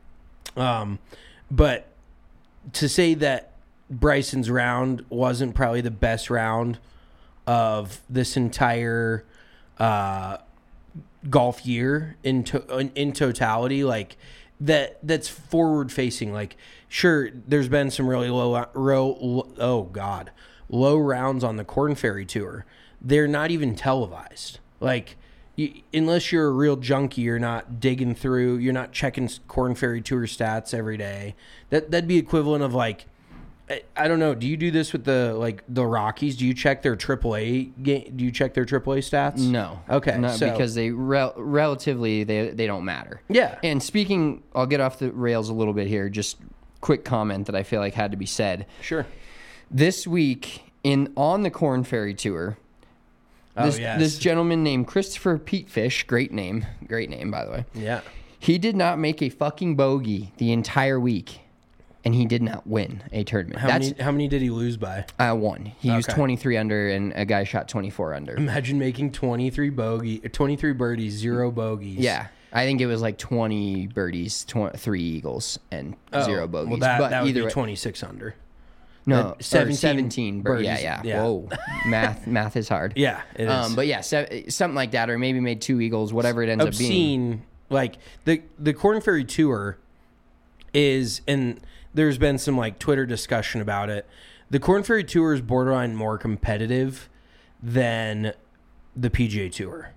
Um, but to say that Bryson's round wasn't probably the best round of this entire uh, golf year in to- in totality, like that that's forward facing. Like, sure, there's been some really low, low, oh god, low rounds on the Korn Ferry Tour. They're not even televised. Like, you, unless you're a real junkie, you're not digging through, you're not checking Korn Ferry Tour stats every day. That that'd be equivalent of like, I, I don't know. Do you do this with the like the Rockies? Do you check their triple A game? Do you check their triple A stats? No. Okay. No, so, because they rel- relatively they they don't matter. Yeah. And speaking, I'll get off the rails a little bit here. Just quick comment that I feel like had to be said. Sure. This week in on the Korn Ferry Tour, this, oh, yes. this gentleman named Christopher Petefish, great name, great name by the way. Yeah. He did not make a fucking bogey the entire week, and he did not win a tournament. How That's many? How many did he lose by? uh, one. He was Okay. twenty-three under, and a guy shot twenty-four under. Imagine making twenty-three bogey, twenty-three birdies, zero bogeys. Yeah. I think it was like twenty birdies, tw- three eagles, and Oh, zero bogeys. Well, that, but that would either be way- twenty-six under. No, Uh, or seventeen seventeen. bir- birdies. Yeah, yeah, Yeah. Whoa, math, math is hard. Yeah, it is. Um, but yeah, se- something like that, or maybe made two eagles, whatever it ends up being. Obscene. Like the the Korn Ferry Tour is, and there's been some like Twitter discussion about it. The Korn Ferry Tour is borderline more competitive than the P G A Tour,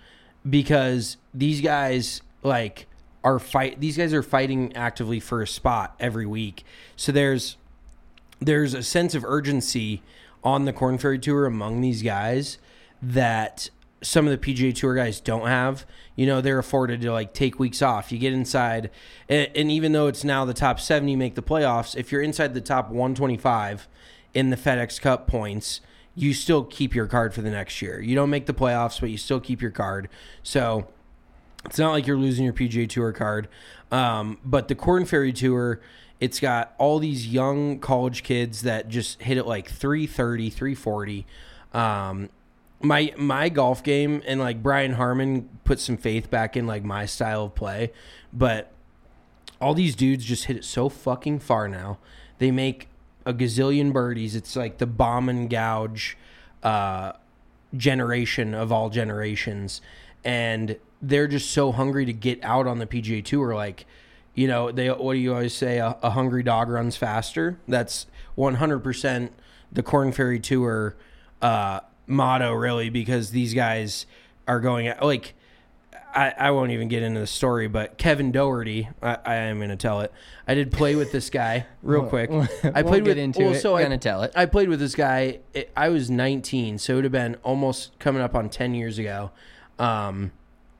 because these guys like are fight. These guys are fighting actively for a spot every week. So there's there's a sense of urgency on the Korn Ferry Tour among these guys that some of the P G A Tour guys don't have. You know, they're afforded to like take weeks off. You get inside, and, and even though it's now the top seventy make the playoffs, if you're inside the top one twenty-five in the FedEx Cup points, you still keep your card for the next year. You don't make the playoffs, but you still keep your card. So it's not like you're losing your P G A Tour card. Um, but the Korn Ferry Tour, it's got all these young college kids that just hit it like three thirty, three forty. Um, my my golf game, and like Brian Harmon put some faith back in like my style of play, but all these dudes just hit it so fucking far now. They make a gazillion birdies. It's like the bomb and gouge uh, generation of all generations, and they're just so hungry to get out on the P G A Tour. Like, you know, they what do you always say? A, a hungry dog runs faster. That's one hundred percent the Korn Ferry Tour uh, motto, really, because these guys are going at, like, I, I won't even get into the story, but Kevin Doherty, I, I am going to tell it. I did play with this guy real quick. I Won't played get with into well, it. So I, Gonna tell it. I played with this guy. It, I was nineteen, so it would have been almost coming up on ten years ago. Um,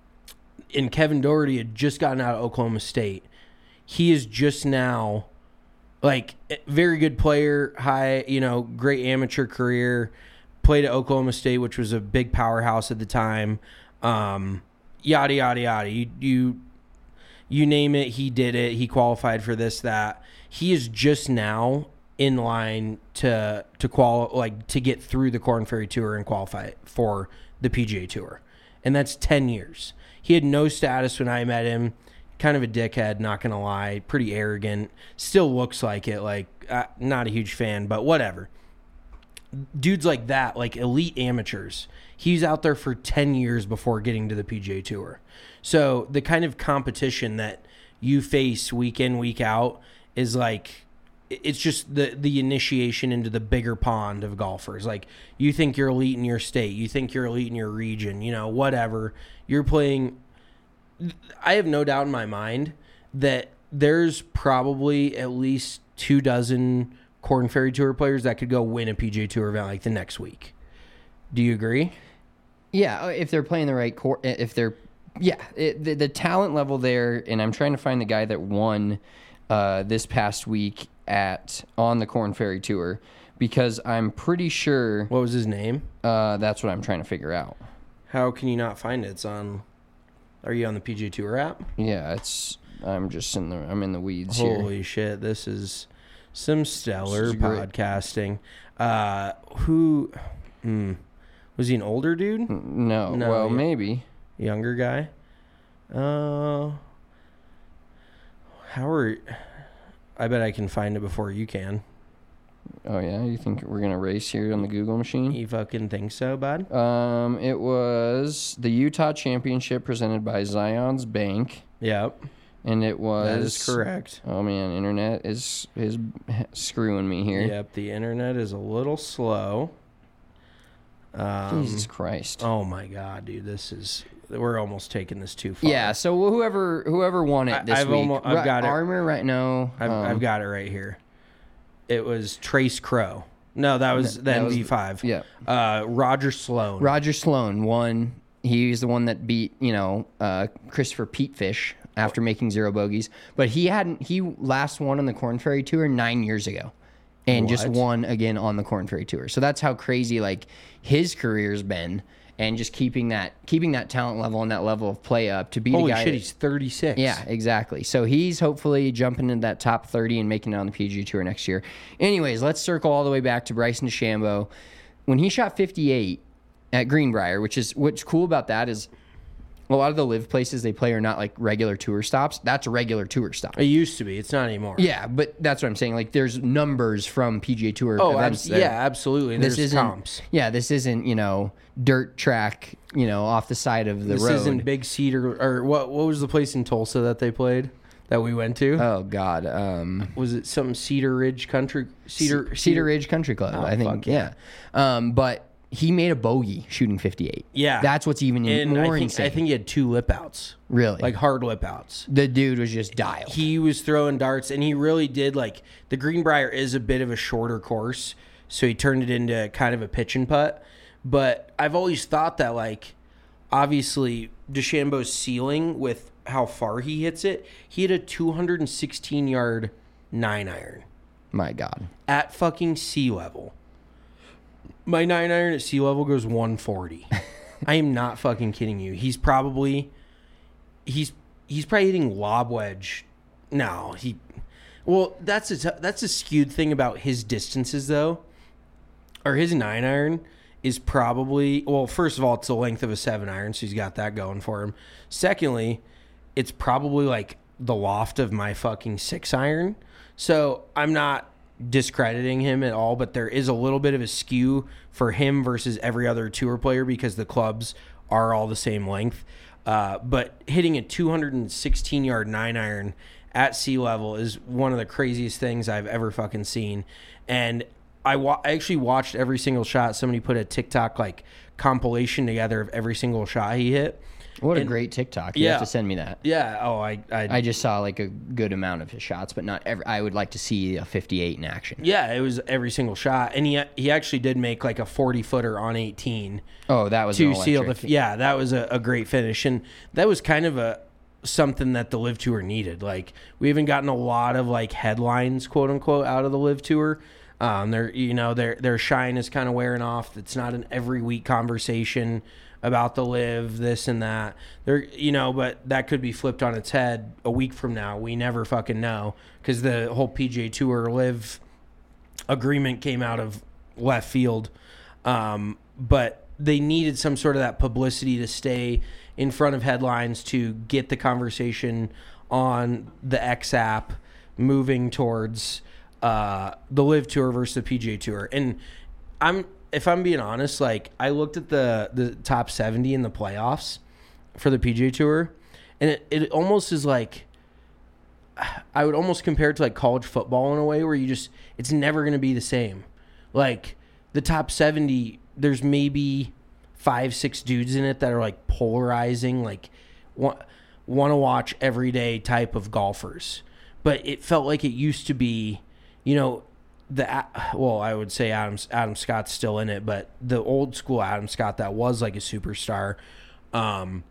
and Kevin Doherty had just gotten out of Oklahoma State. He is just now, like, very good player, high, you know, great amateur career. Played at Oklahoma State, which was a big powerhouse at the time. Um, yada yada yada. You you you name it, he did it. He qualified for this, that. He is just now in line to to qual like to get through the Korn Ferry Tour and qualify for the P G A Tour, and that's ten years. He had no status when I met him. Kind of a dickhead, not gonna lie. Pretty arrogant. Still looks like it. Like uh, not a huge fan, but whatever. Dudes like that, like elite amateurs, he's out there for ten years before getting to the P G A Tour. So the kind of competition that you face week in, week out is like, it's just the, the initiation into the bigger pond of golfers. Like, you think you're elite in your state, you think you're elite in your region, you know, whatever. You're playing. I have no doubt in my mind that there's probably at least two dozen Korn Ferry Tour players that could go win a P G A Tour event like the next week. Do you agree? Yeah, if they're playing the right court, if they're, yeah, it, the, the talent level there, and I'm trying to find the guy that won uh, this past week at on the Korn Ferry Tour, because I'm pretty sure. What was his name? Uh, that's what I'm trying to figure out. How can you not find it? It's on. Are you on the P G A Tour app? Yeah, it's. I'm just in the. I'm in the weeds here. Holy shit! This is some stellar This is great. podcasting. Uh, who? Hmm, was he an older dude? No, No, well, yeah. maybe. Younger guy? Uh, how are... I bet I can find it before you can. Oh yeah, you think we're gonna race here on the Google machine? You fucking think so, bud? Um, it was the Utah Championship presented by Zion's Bank, Yep. and it was. That is correct. Oh man, internet is is screwing me here. Yep, the internet is a little slow. Um, Jesus Christ. Oh my god, dude, this is... We're almost taking this too far. Yeah, so whoever whoever won it I- this I've week, almo- I've Ri- got it. Armour right now. I've, um, I've got it right here. It was Trace Crow. No, that was the that M was- V five. yeah. Uh, Roger Sloan. Roger Sloan won. He's the one that beat, you know, uh, Christopher Petefish after making zero bogeys. But he hadn't. He last won on the Korn Ferry Tour nine years ago, and just What? won again on the Korn Ferry Tour. So that's how crazy like his career's been, and just keeping that keeping that talent level and that level of play up to beat Holy a guy. shit, that- he's thirty-six. Yeah, exactly. So he's hopefully jumping into that top thirty and making it on the P G A Tour next year. Anyways, let's circle all the way back to Bryson DeChambeau. When he shot fifty-eight at Greenbrier, which is what's cool about that is a lot of the live places they play are not like regular tour stops. That's a regular tour stop. It used to be. It's not anymore. Yeah, but that's what I'm saying. Like, there's numbers from P G A Tour Oh, events. abs- there. yeah, absolutely. This There's isn't. comps. Yeah, this isn't you know dirt track. You know, off the side of the This road. isn't Big Cedar or what? What was the place in Tulsa that they played that we went to? Oh God. Um, was it some Cedar Ridge Country Cedar Cedar Ridge Country Club, Oh, I think. fuck Yeah. Um, but he made a bogey shooting fifty-eight. Yeah, That's what's even And more I think, insane. I think he had two lip outs, really. like hard lip outs. the dude was just dialed. He was throwing darts, and he really did like the Greenbrier is a bit of a shorter course, so he turned it into kind of a pitch and putt. But I've always thought that like obviously DeChambeau's ceiling with how far he hits it, he hit a two hundred sixteen yard nine iron My God. at fucking sea level. My nine iron at sea level goes one forty. I am not fucking kidding you. He's probably he's he's probably hitting lob wedge. No, he well, that's a that's a skewed thing about his distances though. Or his nine iron is probably well, first of all, it's the length of a seven iron, so he's got that going for him. Secondly, it's probably like the loft of my fucking six iron. So I'm not discrediting him at all, but there is a little bit of a skew for him versus every other tour player because the clubs are all the same length. Uh, but hitting a two hundred sixteen yard nine iron at sea level is one of the craziest things I've ever fucking seen. And I, wa- I actually watched every single shot. Somebody put a TikTok like compilation together of every single shot he hit. What a And- great TikTok. You yeah. have to send me that. Yeah. Oh, I, I, I just saw like a good amount of his shots, but not every. I would like to see a fifty-eight in action. yeah, it was every single shot, and he he actually did make like a forty footer on eighteen Oh, that was to an seal the. electric. Yeah, that was a, a great finish, and that was kind of a something that the Live Tour needed. Like we haven't gotten a lot of like headlines, quote unquote, out of the Live Tour. Um, their you know their their shine is kind of wearing off. It's not an every week conversation about the live this and that. There, you know, but that could be flipped on its head a week from now. We never fucking know because the whole P G A Tour live agreement came out of left field. Um, but they needed some sort of that publicity to stay in front of headlines to get the conversation on the X app moving towards uh, the Live Tour versus the P G A Tour. And I'm, if I'm being honest, like I looked at the the top seventy in the playoffs for the P G A Tour, and it, it almost is like, I would almost compare it to like college football in a way where you just, it's never going to be the same. Like the top seventy, there's maybe five, six dudes in it that are like polarizing, like want, want to watch every day type of golfers. But it felt like it used to be, you know, the, well, I would say Adam, Adam Scott's still in it, but the old school Adam Scott that was like a superstar. Um,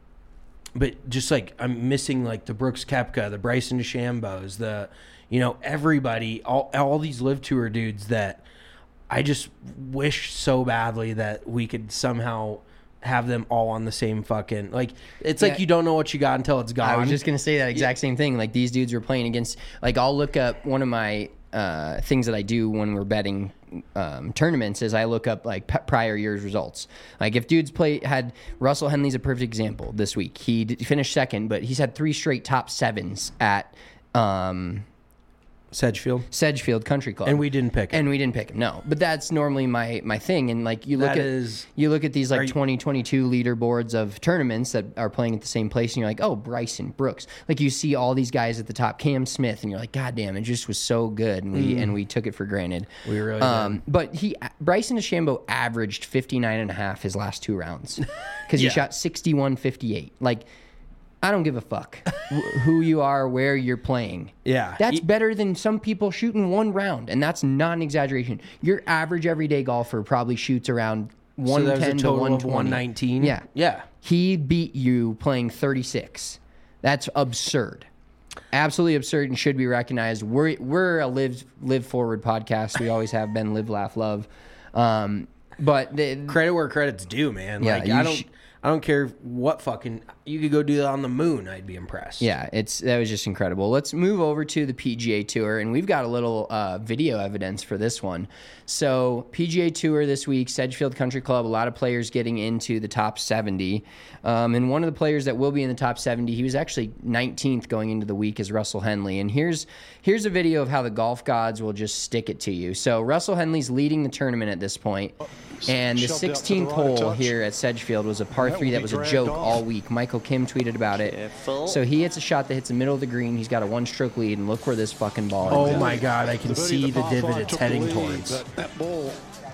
but just like I'm missing like the Brooks Koepka, the Bryson DeChambeaus, the, you know, everybody, all all these Live Tour dudes that I just wish so badly that we could somehow have them all on the same fucking, like, it's yeah. like you don't know what you got until it's gone. I was just going to say that exact yeah. same thing. Like these dudes were playing against, like I'll look up one of my uh, things that I do when we're betting um, tournaments is I look up like p- prior year's results. Like if dudes play, had Russell Henley's a perfect example this week. He d- finished second, but he's had three straight top sevens at, um, Sedgefield, Sedgefield Country Club, and we didn't pick him. And we didn't pick him. No, but that's normally my my thing. And like you look that at is, you look at these like you, twenty twenty-two leaderboards of tournaments that are playing at the same place, and you're like, oh, Bryson Brooks. Like you see all these guys at the top, Cam Smith, and you're like, God damn, it just was so good, and we mm. and we took it for granted. We really um, did. But he Bryson DeChambeau averaged fifty-nine and a half his last two rounds because yeah. he shot sixty-one fifty-eight. Like. I don't give a fuck who you are, where you're playing. Yeah. That's he, better than some people shooting one round, and that's not an exaggeration. Your average everyday golfer probably shoots around one ten so to one twenty. one nineteen? Yeah. Yeah. He beat you playing thirty-six. That's absurd. Absolutely absurd and should be recognized. We're we're a live live forward podcast. We always have been. Live, laugh, love. Um, but the, credit where credit's due, man. Yeah, like I don't sh- I don't care what fucking, you could go do that on the moon. I'd be impressed. Yeah, it's that was just incredible. Let's move over to the P G A Tour, and we've got a little uh, video evidence for this one. So P G A Tour this week, Sedgefield Country Club, a lot of players getting into the top seventy. Um, and one of the players that will be in the top seventy, he was actually nineteenth going into the week, is Russell Henley. And here's here's a video of how the golf gods will just stick it to you. So Russell Henley's leading the tournament at this point, and the sixteenth hole here at Sedgefield was a par three that was a joke all week. Michael Kim tweeted about it. Careful. So he hits a shot that hits the middle of the green. He's got a one-stroke lead, and look where this fucking ball is. Oh my God, I can see the divot it's heading towards. That, that ball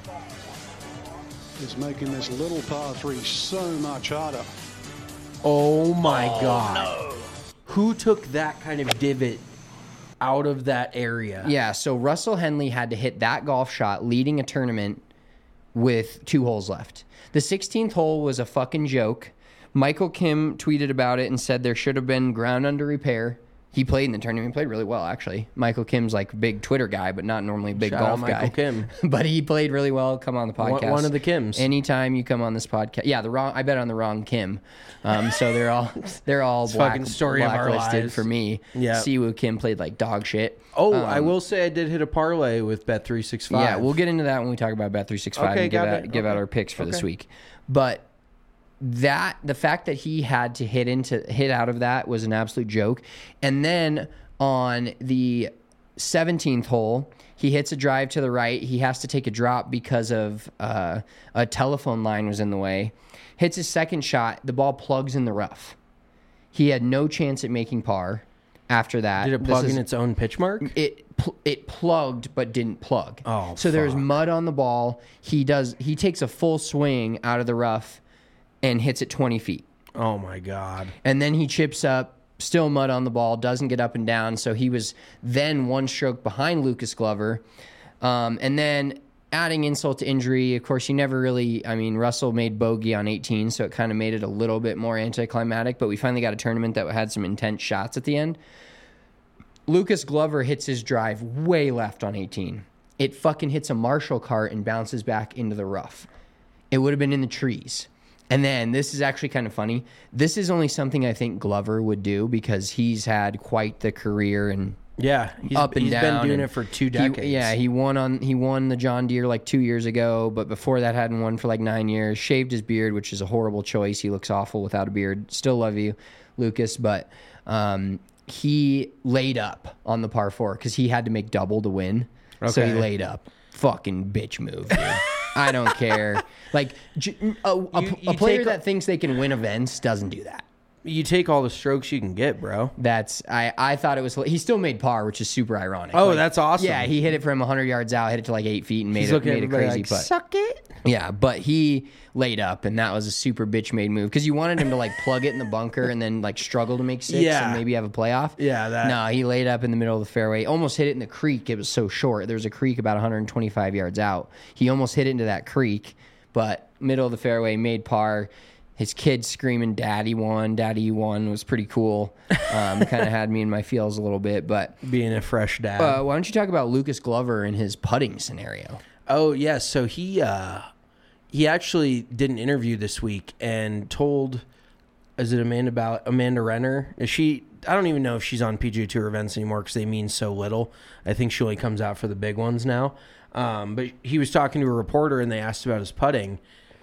is making this little par three so much harder. Oh my oh, God. No. Who took that kind of divot out of that area? Yeah, so Russell Henley had to hit that golf shot leading a tournament with two holes left. The sixteenth hole was a fucking joke. Michael Kim tweeted about it and said there should have been ground under repair. He played in the tournament. He played really well, actually. Michael Kim's like a big Twitter guy, but not normally a big Shout golf out guy. Michael Kim. But he played really well. Come on the podcast. One, one of the Kims. Anytime you come on this podcast. Yeah, the wrong. I bet on the wrong Kim. Um, so they're all they're all black, fucking story of our blacklisted lives. for me. Yeah. Siwoo Kim played like dog shit. Oh, um, I will say I did hit a parlay with Bet three sixty-five. Yeah, we'll get into that when we talk about Bet three sixty-five okay, and give, got out, it. give okay. out our picks for okay. this week. But that the fact that he had to hit into hit out of that was an absolute joke. And then on the seventeenth hole, he hits a drive to the right. He has to take a drop because of uh, a telephone line was in the way. Hits his second shot. The ball plugs in the rough. He had no chance at making par after that. Did it plug is, in its own pitch mark? It pl- it plugged but didn't plug. Oh, so fuck. There's mud on the ball. He does. He takes a full swing out of the rough and hits it twenty feet. Oh my God. And then he chips up. Still mud on the ball, doesn't get up and down. So he was then one stroke behind Lucas Glover. Um, and then adding insult to injury, of course, you never really, I mean, Russell made bogey on eighteen, so it kind of made it a little bit more anticlimactic. But we finally got a tournament that had some intense shots at the end. Lucas Glover hits his drive way left on eighteen. It fucking hits a Marshall cart and bounces back into the rough. It would have been in the trees. And then, this is actually kind of funny. This is only something I think Glover would do because he's had quite the career and Yeah, he's, up and he's down. been doing and it for two he- decades. yeah, he won on he won the John Deere like two years ago, but before that hadn't won for like nine years. Shaved his beard, which is a horrible choice. He looks awful without a beard. Still love you, Lucas, but um, he laid up on the par four because he had to make double to win. So he Okay. laid up. Fucking bitch move, dude. I don't care. Like j- a, a, You- a you player take- that thinks they can win events doesn't do that. You take all the strokes you can get, bro. That's I, I thought it was he still made par, which is super ironic. Oh, Like, that's awesome. Yeah, he hit it from one hundred yards out, hit it to like eight feet, and made He's it looking at made a everybody crazy like, putt. suck it. Yeah, but he laid up, and that was a super bitch made move because you wanted him to like plug it in the bunker and then like struggle to make six Yeah. and maybe have a playoff. Yeah, that- No, he laid up in the middle of the fairway, almost hit it in the creek. It was so short. There was a creek about one hundred twenty-five yards out. He almost hit it into that creek, but middle of the fairway, made par. His kids screaming, "Daddy won! Daddy you won!" was pretty cool. Um, kind of had me in my feels a little bit. But Being a fresh dad. uh, why don't you talk about Lucas Glover and his putting scenario? Oh yes, so he uh, he actually did an interview this week and told, is it Amanda Ball- Amanda Renner? Is she? I don't even know if she's on P G A Tour events anymore because they mean so little. I think she only comes out for the big ones now. Um, but he was talking to a reporter and they asked about his putting.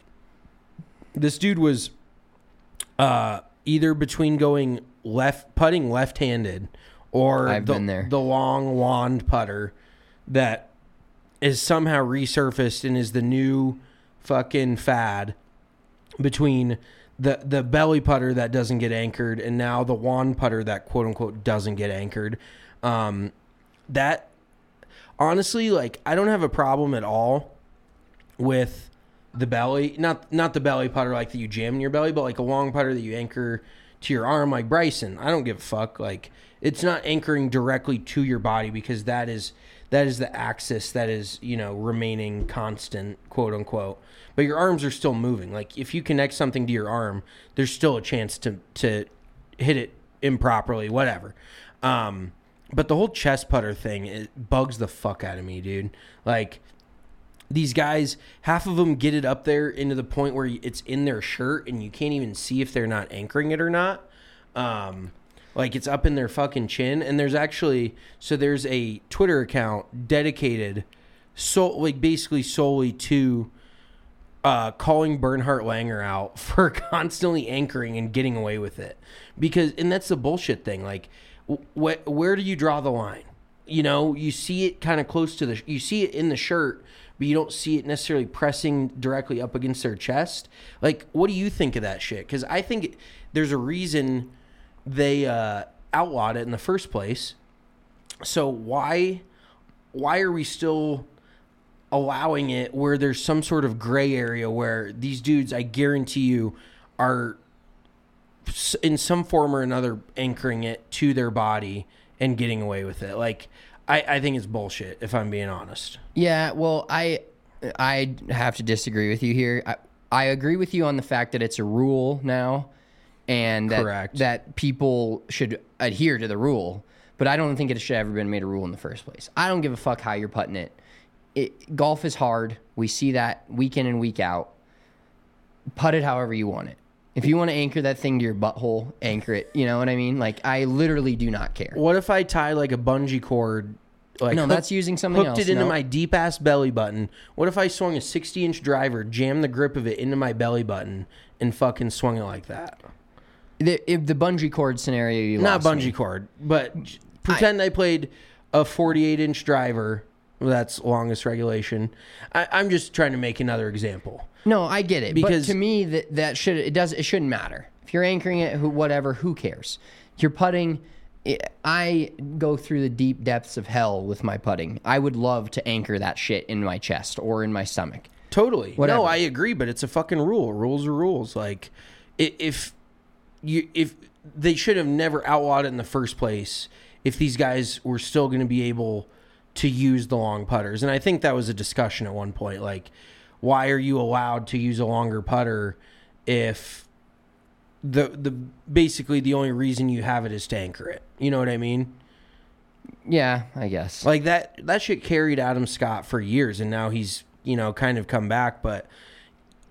This dude was uh, either between going left putting left-handed or I've the, been there. the long wand putter that is somehow resurfaced and is the new fucking fad between the the belly putter that doesn't get anchored and now the wand putter that quote unquote doesn't get anchored. Um, that honestly, like, I don't have a problem at all with the belly, not not the belly putter like that you jam in your belly, but like a long putter that you anchor to your arm like Bryson. I don't give a fuck. Like, it's not anchoring directly to your body because that is that is the axis that is, you know, remaining constant, quote unquote. But your arms are still moving. Like, if you connect something to your arm, there's still a chance to to hit it improperly, whatever. Um, but the whole chest putter thing, it bugs the fuck out of me, dude. Like, these guys, half of them get it up there into the point where it's in their shirt and you can't even see if they're not anchoring it or not. Um, like, it's up in their fucking chin. And there's actually, so there's a Twitter account dedicated, so like basically solely to uh, calling Bernhard Langer out for constantly anchoring and getting away with it. Because, and that's the bullshit thing. Like, wh- where do you draw the line? You know, you see it kind of close to the, you see it in the shirt, but you don't see it necessarily pressing directly up against their chest. Like, what do you think of that shit? Because I think it, there's a reason they uh, outlawed it in the first place. So why, why are we still allowing it where there's some sort of gray area where these dudes, I guarantee you, are in some form or another anchoring it to their body and getting away with it? Like, I, I think it's bullshit, if I'm being honest. Yeah, well, I I have to disagree with you here. I, I agree with you on the fact that it's a rule now, and that, Correct. that people should adhere to the rule. But I don't think it should have ever been made a rule in the first place. I don't give a fuck how you're putting it. It golf is hard. We see that week in and week out. Putt it however you want it. If you want to anchor that thing to your butthole, anchor it. You know what I mean? Like, I literally do not care. What if I tie like a bungee cord? Like, No, hook- that's using something hooked else. it into No. my deep ass belly button. What if I swung a sixty inch driver, jammed the grip of it into my belly button, and fucking swung it like that? The, if the bungee cord scenario, you Not lost bungee me. cord, but j- pretend I, played a forty-eight inch driver. Well, that's longest regulation. I, I'm just trying to make another example. No, I get it. Because- but to me, that that should it does it shouldn't matter if you're anchoring it. Who, whatever, who cares? You're putting. I go through the deep depths of hell with my putting. I would love to anchor that shit in my chest or in my stomach. Totally. Whatever. No, I agree, but it's a fucking rule. Rules are rules. Like, i- if you if they should have never outlawed it in the first place, if these guys were still going to be able to use the long putters. And I think that was a discussion at one point. Like, why are you allowed to use a longer putter if the the basically the only reason you have it is to anchor it? You know what I mean? Yeah, I guess. Like, that that shit carried Adam Scott for years, and now he's, you know, kind of come back. But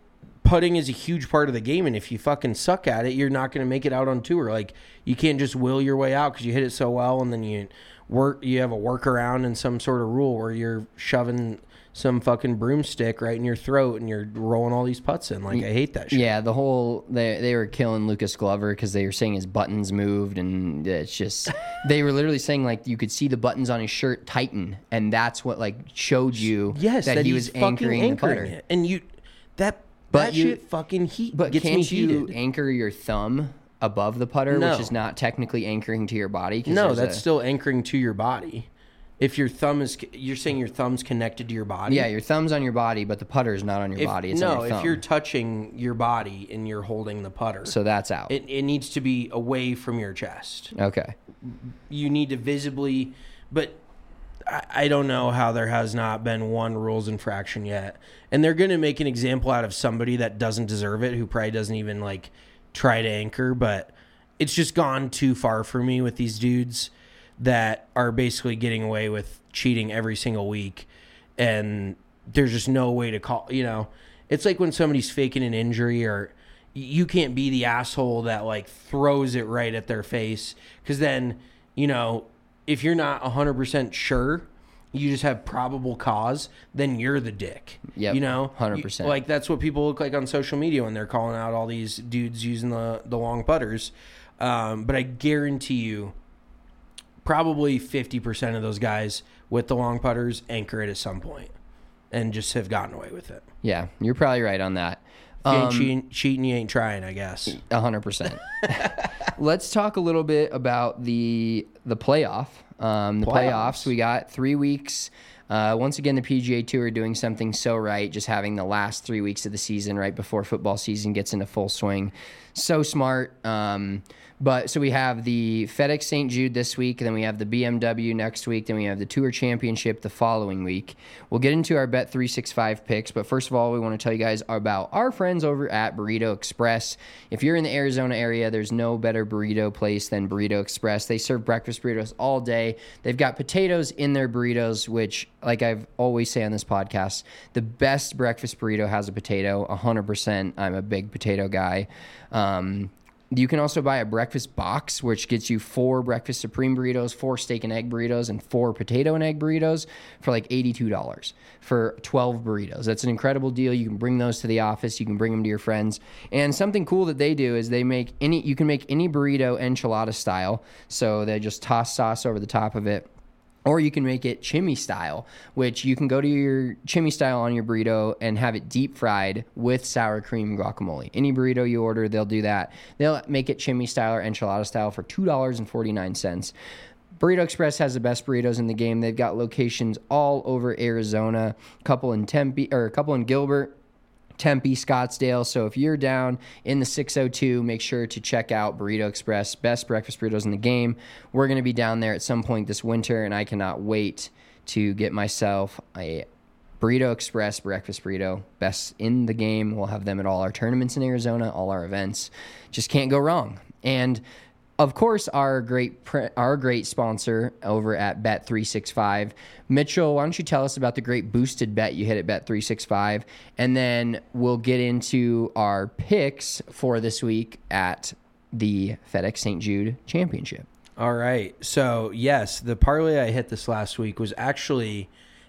putting is a huge part of the game, and if you fucking suck at it, you're not going to make it out on tour. Like, you can't just will your way out because you hit it so well, and then you work. You have a workaround and some sort of rule where you're shoving some fucking broomstick right in your throat and you're rolling all these putts in. Like, I hate that shit. Yeah, the whole they they were killing Lucas Glover because they were saying his buttons moved, and it's just they were literally saying like you could see the buttons on his shirt tighten, and that's what like showed you yes, that, that he he's was anchoring, anchoring the putter. it. And you that But that you- shit fucking heat But gets can't me you heated. anchor your thumb above the putter, No. which is not technically anchoring to your body? 'Cause No, there's that's a- still anchoring to your body. If your thumb is, you're saying your thumb's connected to your body. yeah. Your thumb's on your body, but the putter's not on your If, body. It's no, on your thumb. if you're touching your body and you're holding the putter, so that's out. it, it needs to be away from your chest. Okay. You need to visibly, but I, I don't know how there has not been one rules infraction yet. And they're going to make an example out of somebody that doesn't deserve it, who probably doesn't even like try to anchor, but it's just gone too far for me with these dudes that are basically getting away with cheating every single week. And there's just no way to call, you know, it's like when somebody's faking an injury, or you can't be the asshole that like throws it right at their face. Cause then, you know, if you're not one hundred percent sure, you just have probable cause, then you're the dick. Yep, You know? one hundred percent. You- Like, that's what people look like on social media when they're calling out all these dudes using the, the long putters. Um, but I guarantee you, probably fifty percent of those guys with the long putters anchor it at some point and just have gotten away with it. Yeah, you're probably right on that. If you ain't Um, cheating, cheating, you ain't trying, I guess. A hundred percent. Let's talk a little bit about the the playoff. Um, the playoffs. Playoffs. We got three weeks. Uh, once again, the P G A Tour doing something so right, just having the last three weeks of the season right before football season gets into full swing. So smart. Um, but so we have the FedEx Saint Jude this week, and then we have the B M W next week, then we have the Tour Championship the following week. We'll get into our Bet three sixty-five picks, but first of all, we want to tell you guys about our friends over at Burrito Express. If you're in the Arizona area, there's no better burrito place than Burrito Express. They serve breakfast burritos all day. They've got potatoes in their burritos, which, like I've always say on this podcast, the best breakfast burrito has a potato, one hundred percent. I'm a big potato guy. Um, you can also buy a breakfast box, which gets you four breakfast supreme burritos, four steak and egg burritos, and four potato and egg burritos for like eighty-two dollars for twelve burritos. That's an incredible deal. You can bring those to the office. You can bring them to your friends. And something cool that they do is they make any, you can make any burrito enchilada style. So they just toss sauce over the top of it. Or you can make it chimney style, which you can go to your chimney style on your burrito and have it deep fried with sour cream guacamole. Any burrito you order, they'll do that. They'll make it chimney style or enchilada style for two dollars and forty-nine cents. Burrito Express has the best burritos in the game. They've got locations all over Arizona, a couple in Tempe, or a couple in Gilbert, Tempe, Scottsdale. So if you're down in the six oh two, make sure to check out Burrito Express, best breakfast burritos in the game. We're going to be down there at some point this winter, and I cannot wait to get myself a Burrito Express breakfast burrito, best in the game. We'll have them at all our tournaments in Arizona, all our events. Just can't go wrong. And of course, our great pre- our great sponsor over at Bet three sixty-five. Mitchell, why don't you tell us about the great boosted bet you hit at Bet three sixty-five, and then we'll get into our picks for this week at the FedEx Saint Jude Championship. All right. So, yes, the parlay I hit this last week was actually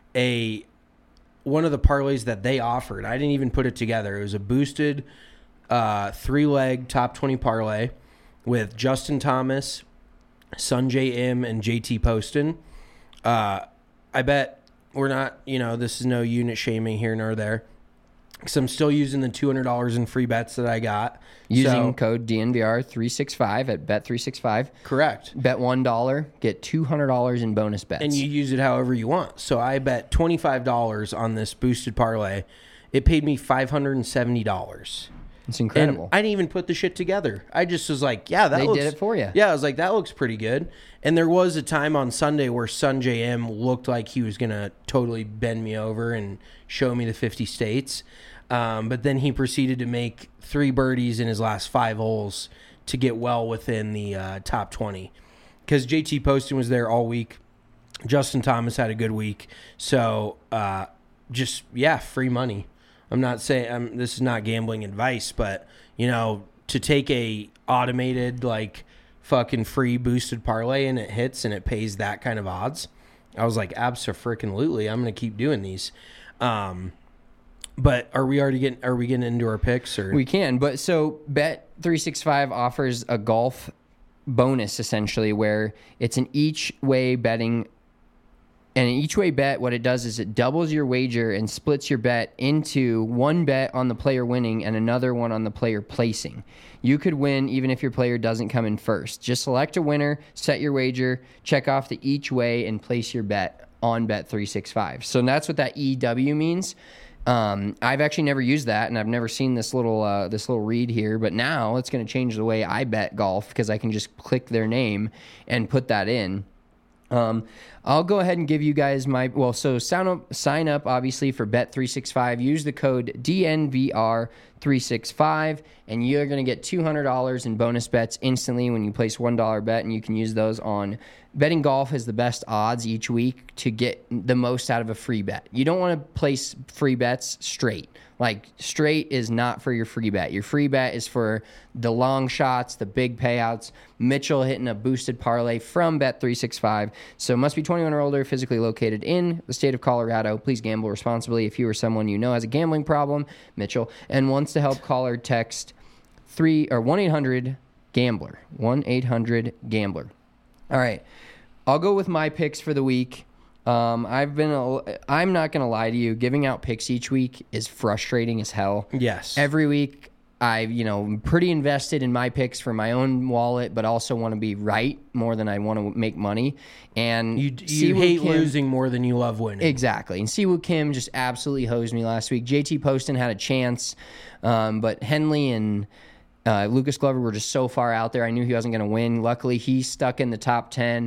a one of the parlays that they offered. I didn't even put it together. It was a boosted uh, three-leg top twenty parlay with Justin Thomas, Sungjae Im, and J T Poston. Uh, I bet we're not, you know, this is no unit shaming here nor there, because I'm still using the two hundred dollars in free bets that I got. Using So- code D N V R three sixty-five at Bet three sixty-five. Correct. Bet one dollar, get two hundred dollars in bonus bets. And you use it however you want. So I bet twenty-five dollars on this boosted parlay. It paid me five hundred seventy dollars. It's incredible. And I didn't even put the shit together. I just was like, yeah, that They looks... did it for you. Yeah, I was like, that looks pretty good. And there was a time on Sunday where Sungjae Im looked like he was going to totally bend me over and show me the fifty states. Um, but then he proceeded to make three birdies in his last five holes to get well within the uh, top twenty. Because J T Poston was there all week. Justin Thomas had a good week. So, uh, just, yeah, free money. I'm not saying I'm, this is not gambling advice, but you know, to take a automated like fucking free boosted parlay and it hits and it pays that kind of odds, I was like, abso-freaking-lutely, I'm going to keep doing these. Um, but are we already getting, are we getting into our picks or? We can, but so Bet three sixty-five offers a golf bonus essentially where it's an each way betting. And an each way bet, what it does is it doubles your wager and splits your bet into one bet on the player winning and another one on the player placing. You could win even if your player doesn't come in first. Just select a winner, set your wager, check off the each way, and place your bet on Bet three sixty-five. So that's what that E W means. Um, I've actually never used that, and I've never seen this little uh, this little read here. But now it's going to change the way I bet golf because I can just click their name and put that in. Um, I'll go ahead and give you guys my, well, so sign up, sign up obviously for Bet three sixty-five. Use the code D N V R three sixty-five, and you're going to get two hundred dollars in bonus bets instantly when you place one dollar bet, and you can use those on betting golf. Is the best odds each week to get the most out of a free bet. You don't want to place free bets straight. Like, straight is not for your free bet. Your free bet is for the long shots, the big payouts. Mitchell hitting a boosted parlay from Bet three sixty-five. So must be twenty-one or older, physically located in the state of Colorado. Please gamble responsibly. If you or someone you know has a gambling problem, Mitchell, and wants to help, call or text three or one eight hundred gambler. one eight hundred gambler. All right. I'll go with my picks for the week. Um, I've been, a, I'm not going to lie to you. Giving out picks each week is frustrating as hell. Yes. Every week, I've, you know, I'm pretty invested in my picks for my own wallet, but also want to be right more than I want to make money. And you, you hate Kim, losing more than you love winning. Exactly. And Siwoo Kim just absolutely hosed me last week. J T Poston had a chance, um, but Henley and uh, Lucas Glover were just so far out there. I knew he wasn't going to win. Luckily, he stuck in the top ten.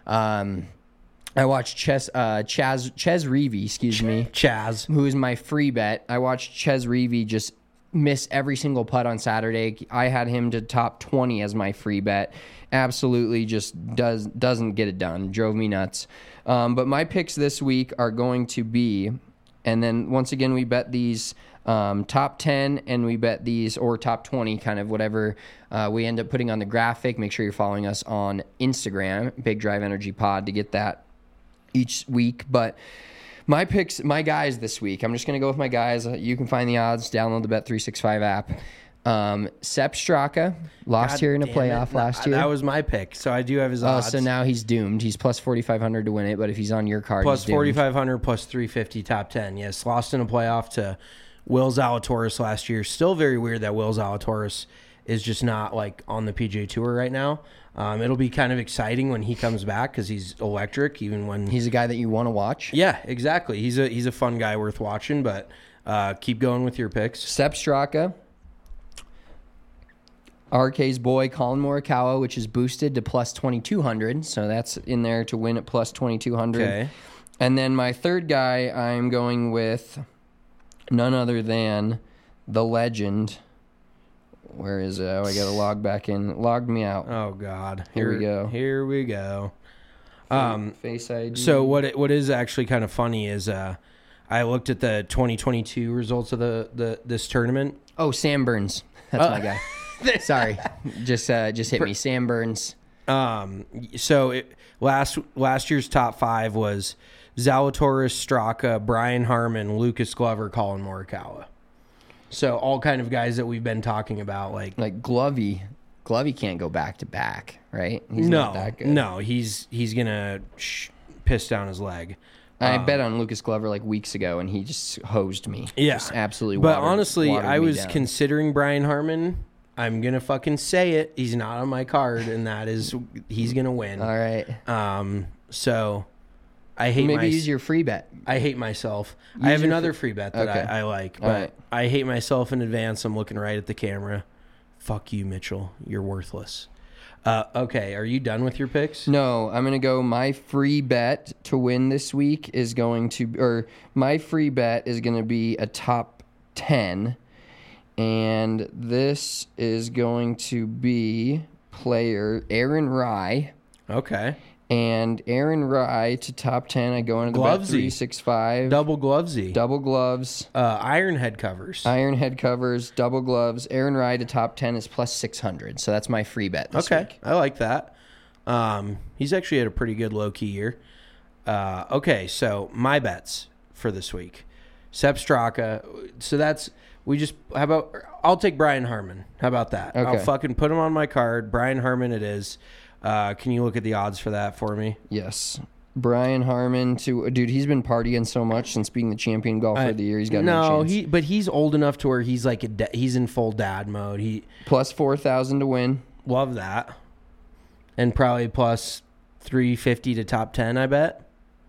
Um, I watched Ches, uh, Chaz, Ches Reavie, excuse me. Chaz. Who is my free bet. I watched Ches Reavie just miss every single putt on Saturday. I had him to top twenty as my free bet. Absolutely just does, doesn't get it done. Drove me nuts. Um, but my picks this week are going to be, and then once again, we bet these um, top ten and we bet these, or top twenty, kind of whatever uh, we end up putting on the graphic. Make sure you're following us on Instagram, Big Drive Energy Pod, to get that each week. But my picks, my guys this week, I'm just going to go with my guys. You can find the odds. Download the Bet three sixty-five app. Um, Sepp Straka lost God here in a damn playoff it. last No, year. That was my pick, so I do have his Oh, odds. so now he's doomed. He's plus forty-five hundred to win it, but if he's on your card, Plus he's doomed. forty-five hundred, plus three fifty, top ten. Yes, lost in a playoff to Will Zalatoris last year. Still very weird that Will Zalatoris is just not like on the P G A Tour right now. Um, it'll be kind of exciting when he comes back because he's electric. Even when He's a guy that you want to watch. yeah, exactly. He's a he's a fun guy worth watching. But uh, keep going with your picks. Sepp Straka, R K's boy Colin Morikawa, which is boosted to plus twenty-two hundred, so that's in there to win at plus twenty-two hundred. Okay. And then my third guy, I'm going with none other than the legend. Where is it? Oh, I got to log back in. Logged me out. Oh God. Here we go. Here we go. Um, Face I D. So what it, what is actually kind of funny is uh, I looked at the twenty twenty-two results of the, the this tournament. Oh, Sam Burns. That's Uh, my guy. Sorry, just uh, just hit me. Sam Burns. Um, so it, last last year's top five was Zalatoris, Straka, Brian Harman, Lucas Glover, Colin Morikawa. So all kind of guys that we've been talking about, like Like Glovey. Glovey can't go back to back, right? He's no, not that good. no, he's he's gonna sh- piss down his leg. I Um, bet on Lucas Glover like weeks ago, and he just hosed me. Yeah, Just absolutely. But watered- honestly, watered I me was down. considering Brian Harman. I'm gonna fucking say it. He's not on my card, and that is he's gonna win. All right. Um. So I hate Maybe my, use your free bet. I hate myself. Use I have your another fr- free bet that Okay. I, I like, All but right. I hate myself in advance. I'm looking right at the camera. Fuck you, Mitchell. You're worthless. Uh, okay, are you done with your picks? No, I'm gonna go. My free bet to win this week is going to, or my free bet is gonna be a top ten, and this is going to be player Aaron Rye. Okay. And Aaron Rye to top ten. I go into the bet Glovesy. three sixty-five. Double Glovesy. Double gloves. Uh, iron head covers. Iron head covers. Double gloves. Aaron Rye to top ten is plus six hundred. So that's my free bet this okay, week. I like that. Um, he's actually had a pretty good low-key year. Uh, okay, so my bets for this week. Sepp Straka. So that's, we just, how about, I'll take Brian Harman. How about that? Okay. I'll fucking put him on my card. Brian Harman it is. Uh, can you look at the odds for that for me? Yes. Brian Harman to, dude, he's been partying so much since being the champion golfer I, of the year. He's got no, no chance. he, but he's old enough to where he's like, a da- he's in full dad mode. He Plus four thousand to win. Love that. And probably plus three fifty to top ten, I bet.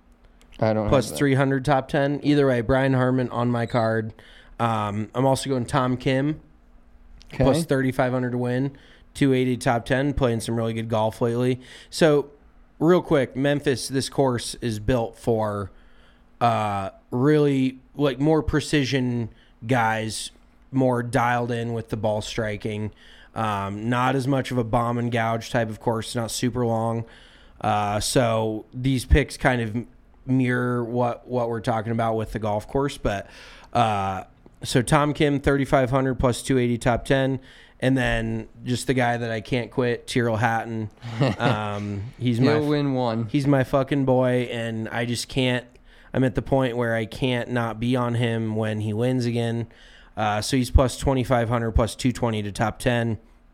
I don't Plus have that. three hundred top ten. Either way, Brian Harman on my card. Um, I'm also going Tom Kim. Okay. Plus thirty-five hundred to win. two eighty top ten. Playing some really good golf lately. So, real quick, Memphis, this course is built for uh, really like more precision guys, more dialed in with the ball striking. Um, not as much of a bomb and gouge type of course, not super long. Uh, so these picks kind of mirror what, what we're talking about with the golf course. But uh, so Tom Kim, thirty-five hundred plus two eighty top ten. And then just the guy that I can't quit, Tyrrell Hatton. Um, he's He'll my win one. He's my fucking boy, and I just can't. I'm at the point where I can't not be on him when he wins again. Uh, so he's plus twenty-five hundred, plus two twenty to top ten.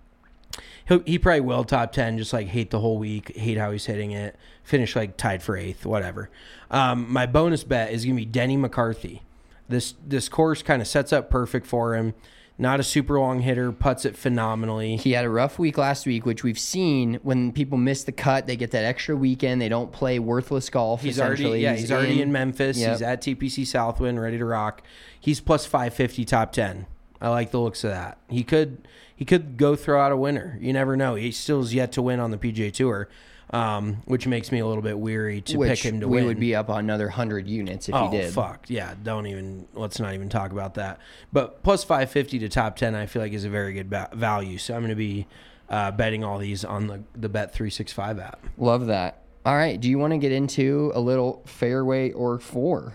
He'll, he probably will top ten, just like hate the whole week, hate how he's hitting it, finish like tied for eighth, whatever. Um, my bonus bet is going to be Denny McCarthy. This, this course kind of sets up perfect for him. Not a super long hitter, putts it phenomenally. He had a rough week last week, which we've seen when people miss the cut, they get that extra weekend. They don't play worthless golf. He's already yeah, he's, he's already in, in Memphis. Yep. He's at T P C Southwind, ready to rock. He's plus five fifty top ten. I like the looks of that. He could he could go throw out a winner. You never know. He still is yet to win on the P G A Tour, um, which makes me a little bit weary to which pick him to we win. We would be up on another one hundred units if oh, he did. fuck. Yeah, don't even, let's not even talk about that. But plus five fifty to top ten, I feel like is a very good ba- value. So I'm going to be uh, betting all these on the, the Bet three sixty-five app. Love that. All right. Do you want to get into a little fairway or four?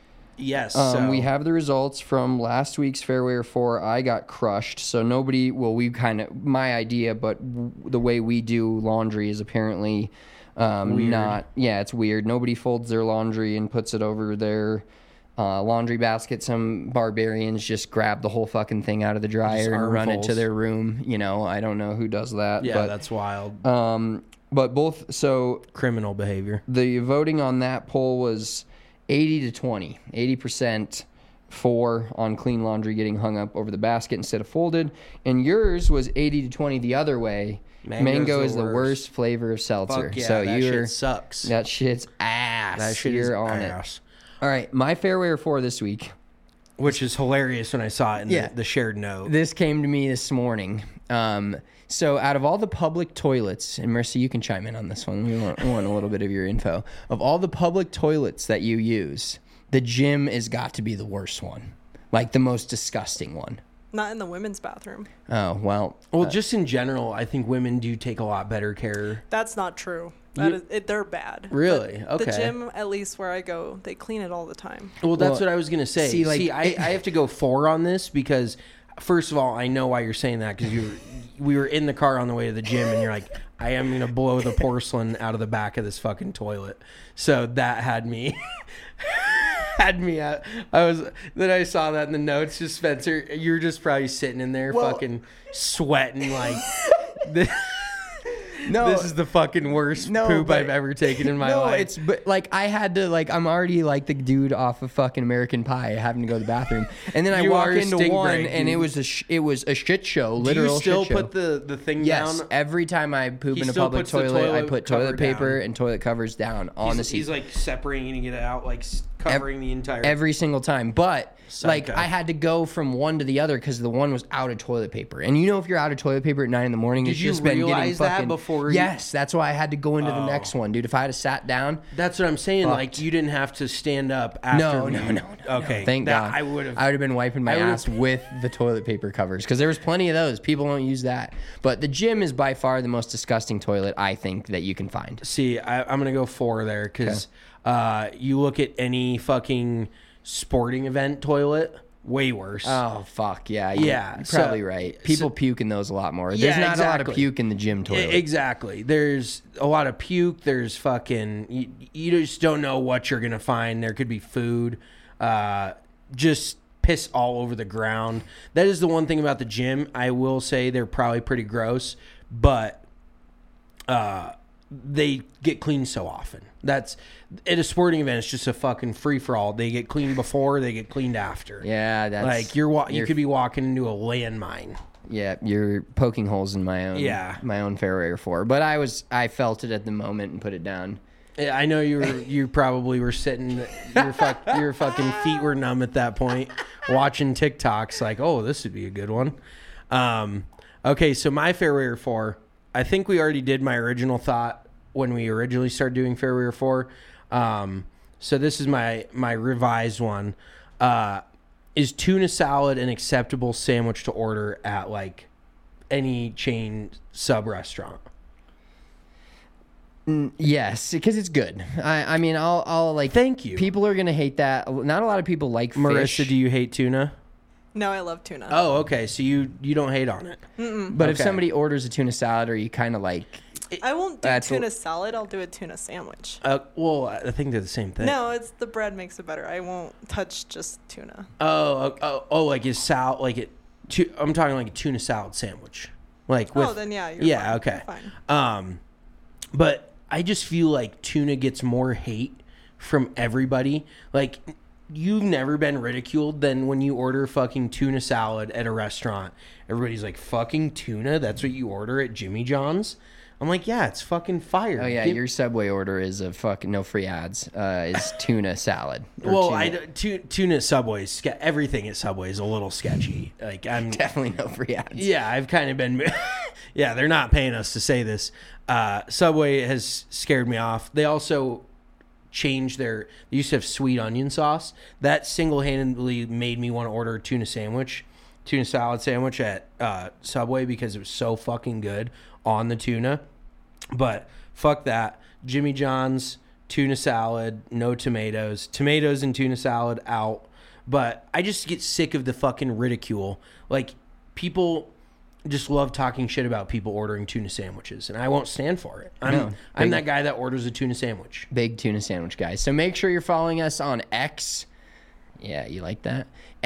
Yes. Um, so. we have the results from last week's fairway or four. I got crushed. So nobody, well, we kind of, my idea, but w- the way we do laundry is apparently um, not, yeah, it's weird. Nobody folds their laundry and puts it over their uh, laundry basket. Some barbarians just grab the whole fucking thing out of the dryer and run it to their room. You know, I don't know who does that. Yeah, but, that's wild. Um, but both, so Criminal behavior. the voting on that poll was eighty to twenty. eighty percent for on clean laundry getting hung up over the basket instead of folded. And yours was eighty to twenty the other way. Mango's Mango the is the worst. worst flavor of seltzer. Fuck yeah, so that you're, shit sucks. That shit's ass. That shit you're is on ass. it. All right, my fairway or four this week. Which is hilarious when I saw it in Yeah. the, the shared note. This came to me this morning. Um, so out of all the public toilets, and Mercy, you can chime in on this one. We want, we want a little bit of your info. Of all the public toilets that you use, the gym has got to be the worst one. Like the most disgusting one. Not in the women's bathroom. Oh, well. Well, uh, just in general, I think women do take a lot better care. That's not true. That You- is, it, they're bad. Really? But Okay. The gym, at least where I go, they clean it all the time. Well, that's Well, what I was going to say. see, See, like, I, it- I have to go four on this because, first of all, I know why you're saying that because you were, we were in the car on the way to the gym and you're like, I am going to blow the porcelain out of the back of this fucking toilet. So that had me... had me at, I was, then I saw that in the notes, just Spencer, you're just probably sitting in there Well- fucking sweating like, this, no, this is the fucking worst no, poop but- I've ever taken in my no, life. it's but like I had to like I'm already like the dude off of fucking American Pie having to go to the bathroom, and then I You walk are a into stink one break, and it dude. was a sh- it was a shit show, Do literal you still shit show. put the, the thing Yes, down? every time I poop He in a still public puts the toilet, I toilet put cover toilet paper down. and toilet covers down on he's, the seat. he's like separating it out, like s- covering the entire every single time. But like Psycho. I had to go from one to the other because the one was out of toilet paper. And you know, if you're out of toilet paper at nine in the morning, Did it's you just been getting realize that fucking, before you- Yes, that's why I had to go into the Oh. next one, dude. If I had sat down, That's what I'm saying. Fucked. Like you didn't have to stand up after. no, you- no, no, no. Okay, no. Thank that- God. I would have. I would have been wiping my I would've- ass with the toilet paper covers because there was plenty of those. People don't use that. But the gym is by far the most disgusting toilet I think that you can find. See, I, I'm gonna go four there because uh, you look at any fucking sporting event toilet, way worse. Oh fuck yeah, you- Yeah, you're so- probably right. People so- puke in those a lot more. Yeah, There's not a lot of exactly. puke in the gym E- toilet. Exactly. There's a lot of puke. There's fucking. You, you just don't know what you're gonna find. There could be food. Uh, just piss all over the ground. That is the one thing about the gym. I will say they're probably pretty gross, but uh, they get cleaned so often. That's at a sporting event. It's just a fucking free for all. They get cleaned before. They get cleaned after. Yeah, that's Like you're, wa- you you're- could be walking into a landmine. Yeah, you're poking holes in my own Yeah. my own Fairway four. But I was I felt it at the moment and put it down. Yeah, I know you were. You probably were sitting. Your fuck. Your fucking feet were numb at that point, watching TikToks. Like, oh, this would be a good one. Um, okay, so my Fairway four. I think we already did my original thought when we originally started doing Fairway four. Um, so this is my my revised one. Uh, is tuna salad an acceptable sandwich to order at like any chain sub restaurant? Yes, because it's good. I I mean I'll I'll like Thank you. People are gonna hate that. Not a lot of people like Marissa, fish. do you hate tuna? No, I love tuna. Oh, okay. So you you don't hate on it. But if Okay. somebody orders a tuna salad, or you kind of like, I won't do That's a- tuna salad. I'll do a tuna sandwich. Uh, well, I think they're the same thing. No, it's the bread makes it better. I won't touch just tuna. Oh, oh, oh, like is sal like it? Tu- I'm talking like a tuna salad sandwich, like with. Oh, then yeah, you're yeah, fine. okay. You're fine. Um, but I just feel like tuna gets more hate from everybody. Like you've never been ridiculed than when you order fucking tuna salad at a restaurant. Everybody's like, "Fucking tuna? That's what you order at Jimmy John's?" I'm like, "Yeah, it's fucking fire." oh yeah, Give- your Subway order is a fucking no free ads. Uh, is tuna salad. or Well, tuna- I tu- tuna at Subway, ske- everything at Subway is a little sketchy. Like I'm definitely no free ads. Yeah, I've kind of been. Yeah, they're not paying us to say this. Uh, Subway has scared me off. They also changed their. They used to have sweet onion sauce. That single-handedly made me want to order a tuna sandwich, tuna salad sandwich at uh, Subway because it was so fucking good on the tuna. But fuck that. Jimmy John's tuna salad, no tomatoes. Tomatoes and tuna salad out. But I just get sick of the fucking ridicule. Like people just love talking shit about people ordering tuna sandwiches, and I won't stand for it. I'm No, I'm big- that guy that orders a tuna sandwich. Big tuna sandwich guys. So make sure you're following us on X. Yeah, you like that?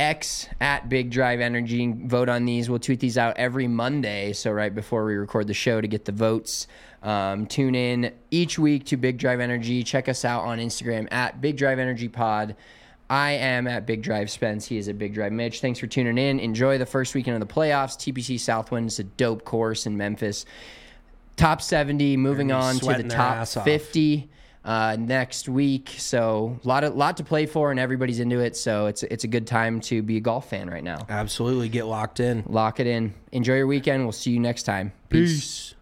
X at Big Drive Energy. Vote on these. We'll tweet these out every Monday. So right before we record the show to get the votes. Um, tune in each week to Big Drive Energy. Check us out on Instagram at Big Drive Energy Pod. I am at Big Drive Spence. He is at Big Drive Mitch. Thanks for tuning in. Enjoy the first weekend of the playoffs. T P C Southwind is a dope course in Memphis. Top seventy, moving They're gonna be on to the sweating their top ass off. fifty uh, next week. So a lot of lot to play for, and everybody's into it. So it's it's a good time to be a golf fan right now. Absolutely, get locked in. Lock it in. Enjoy your weekend. We'll see you next time. Peace.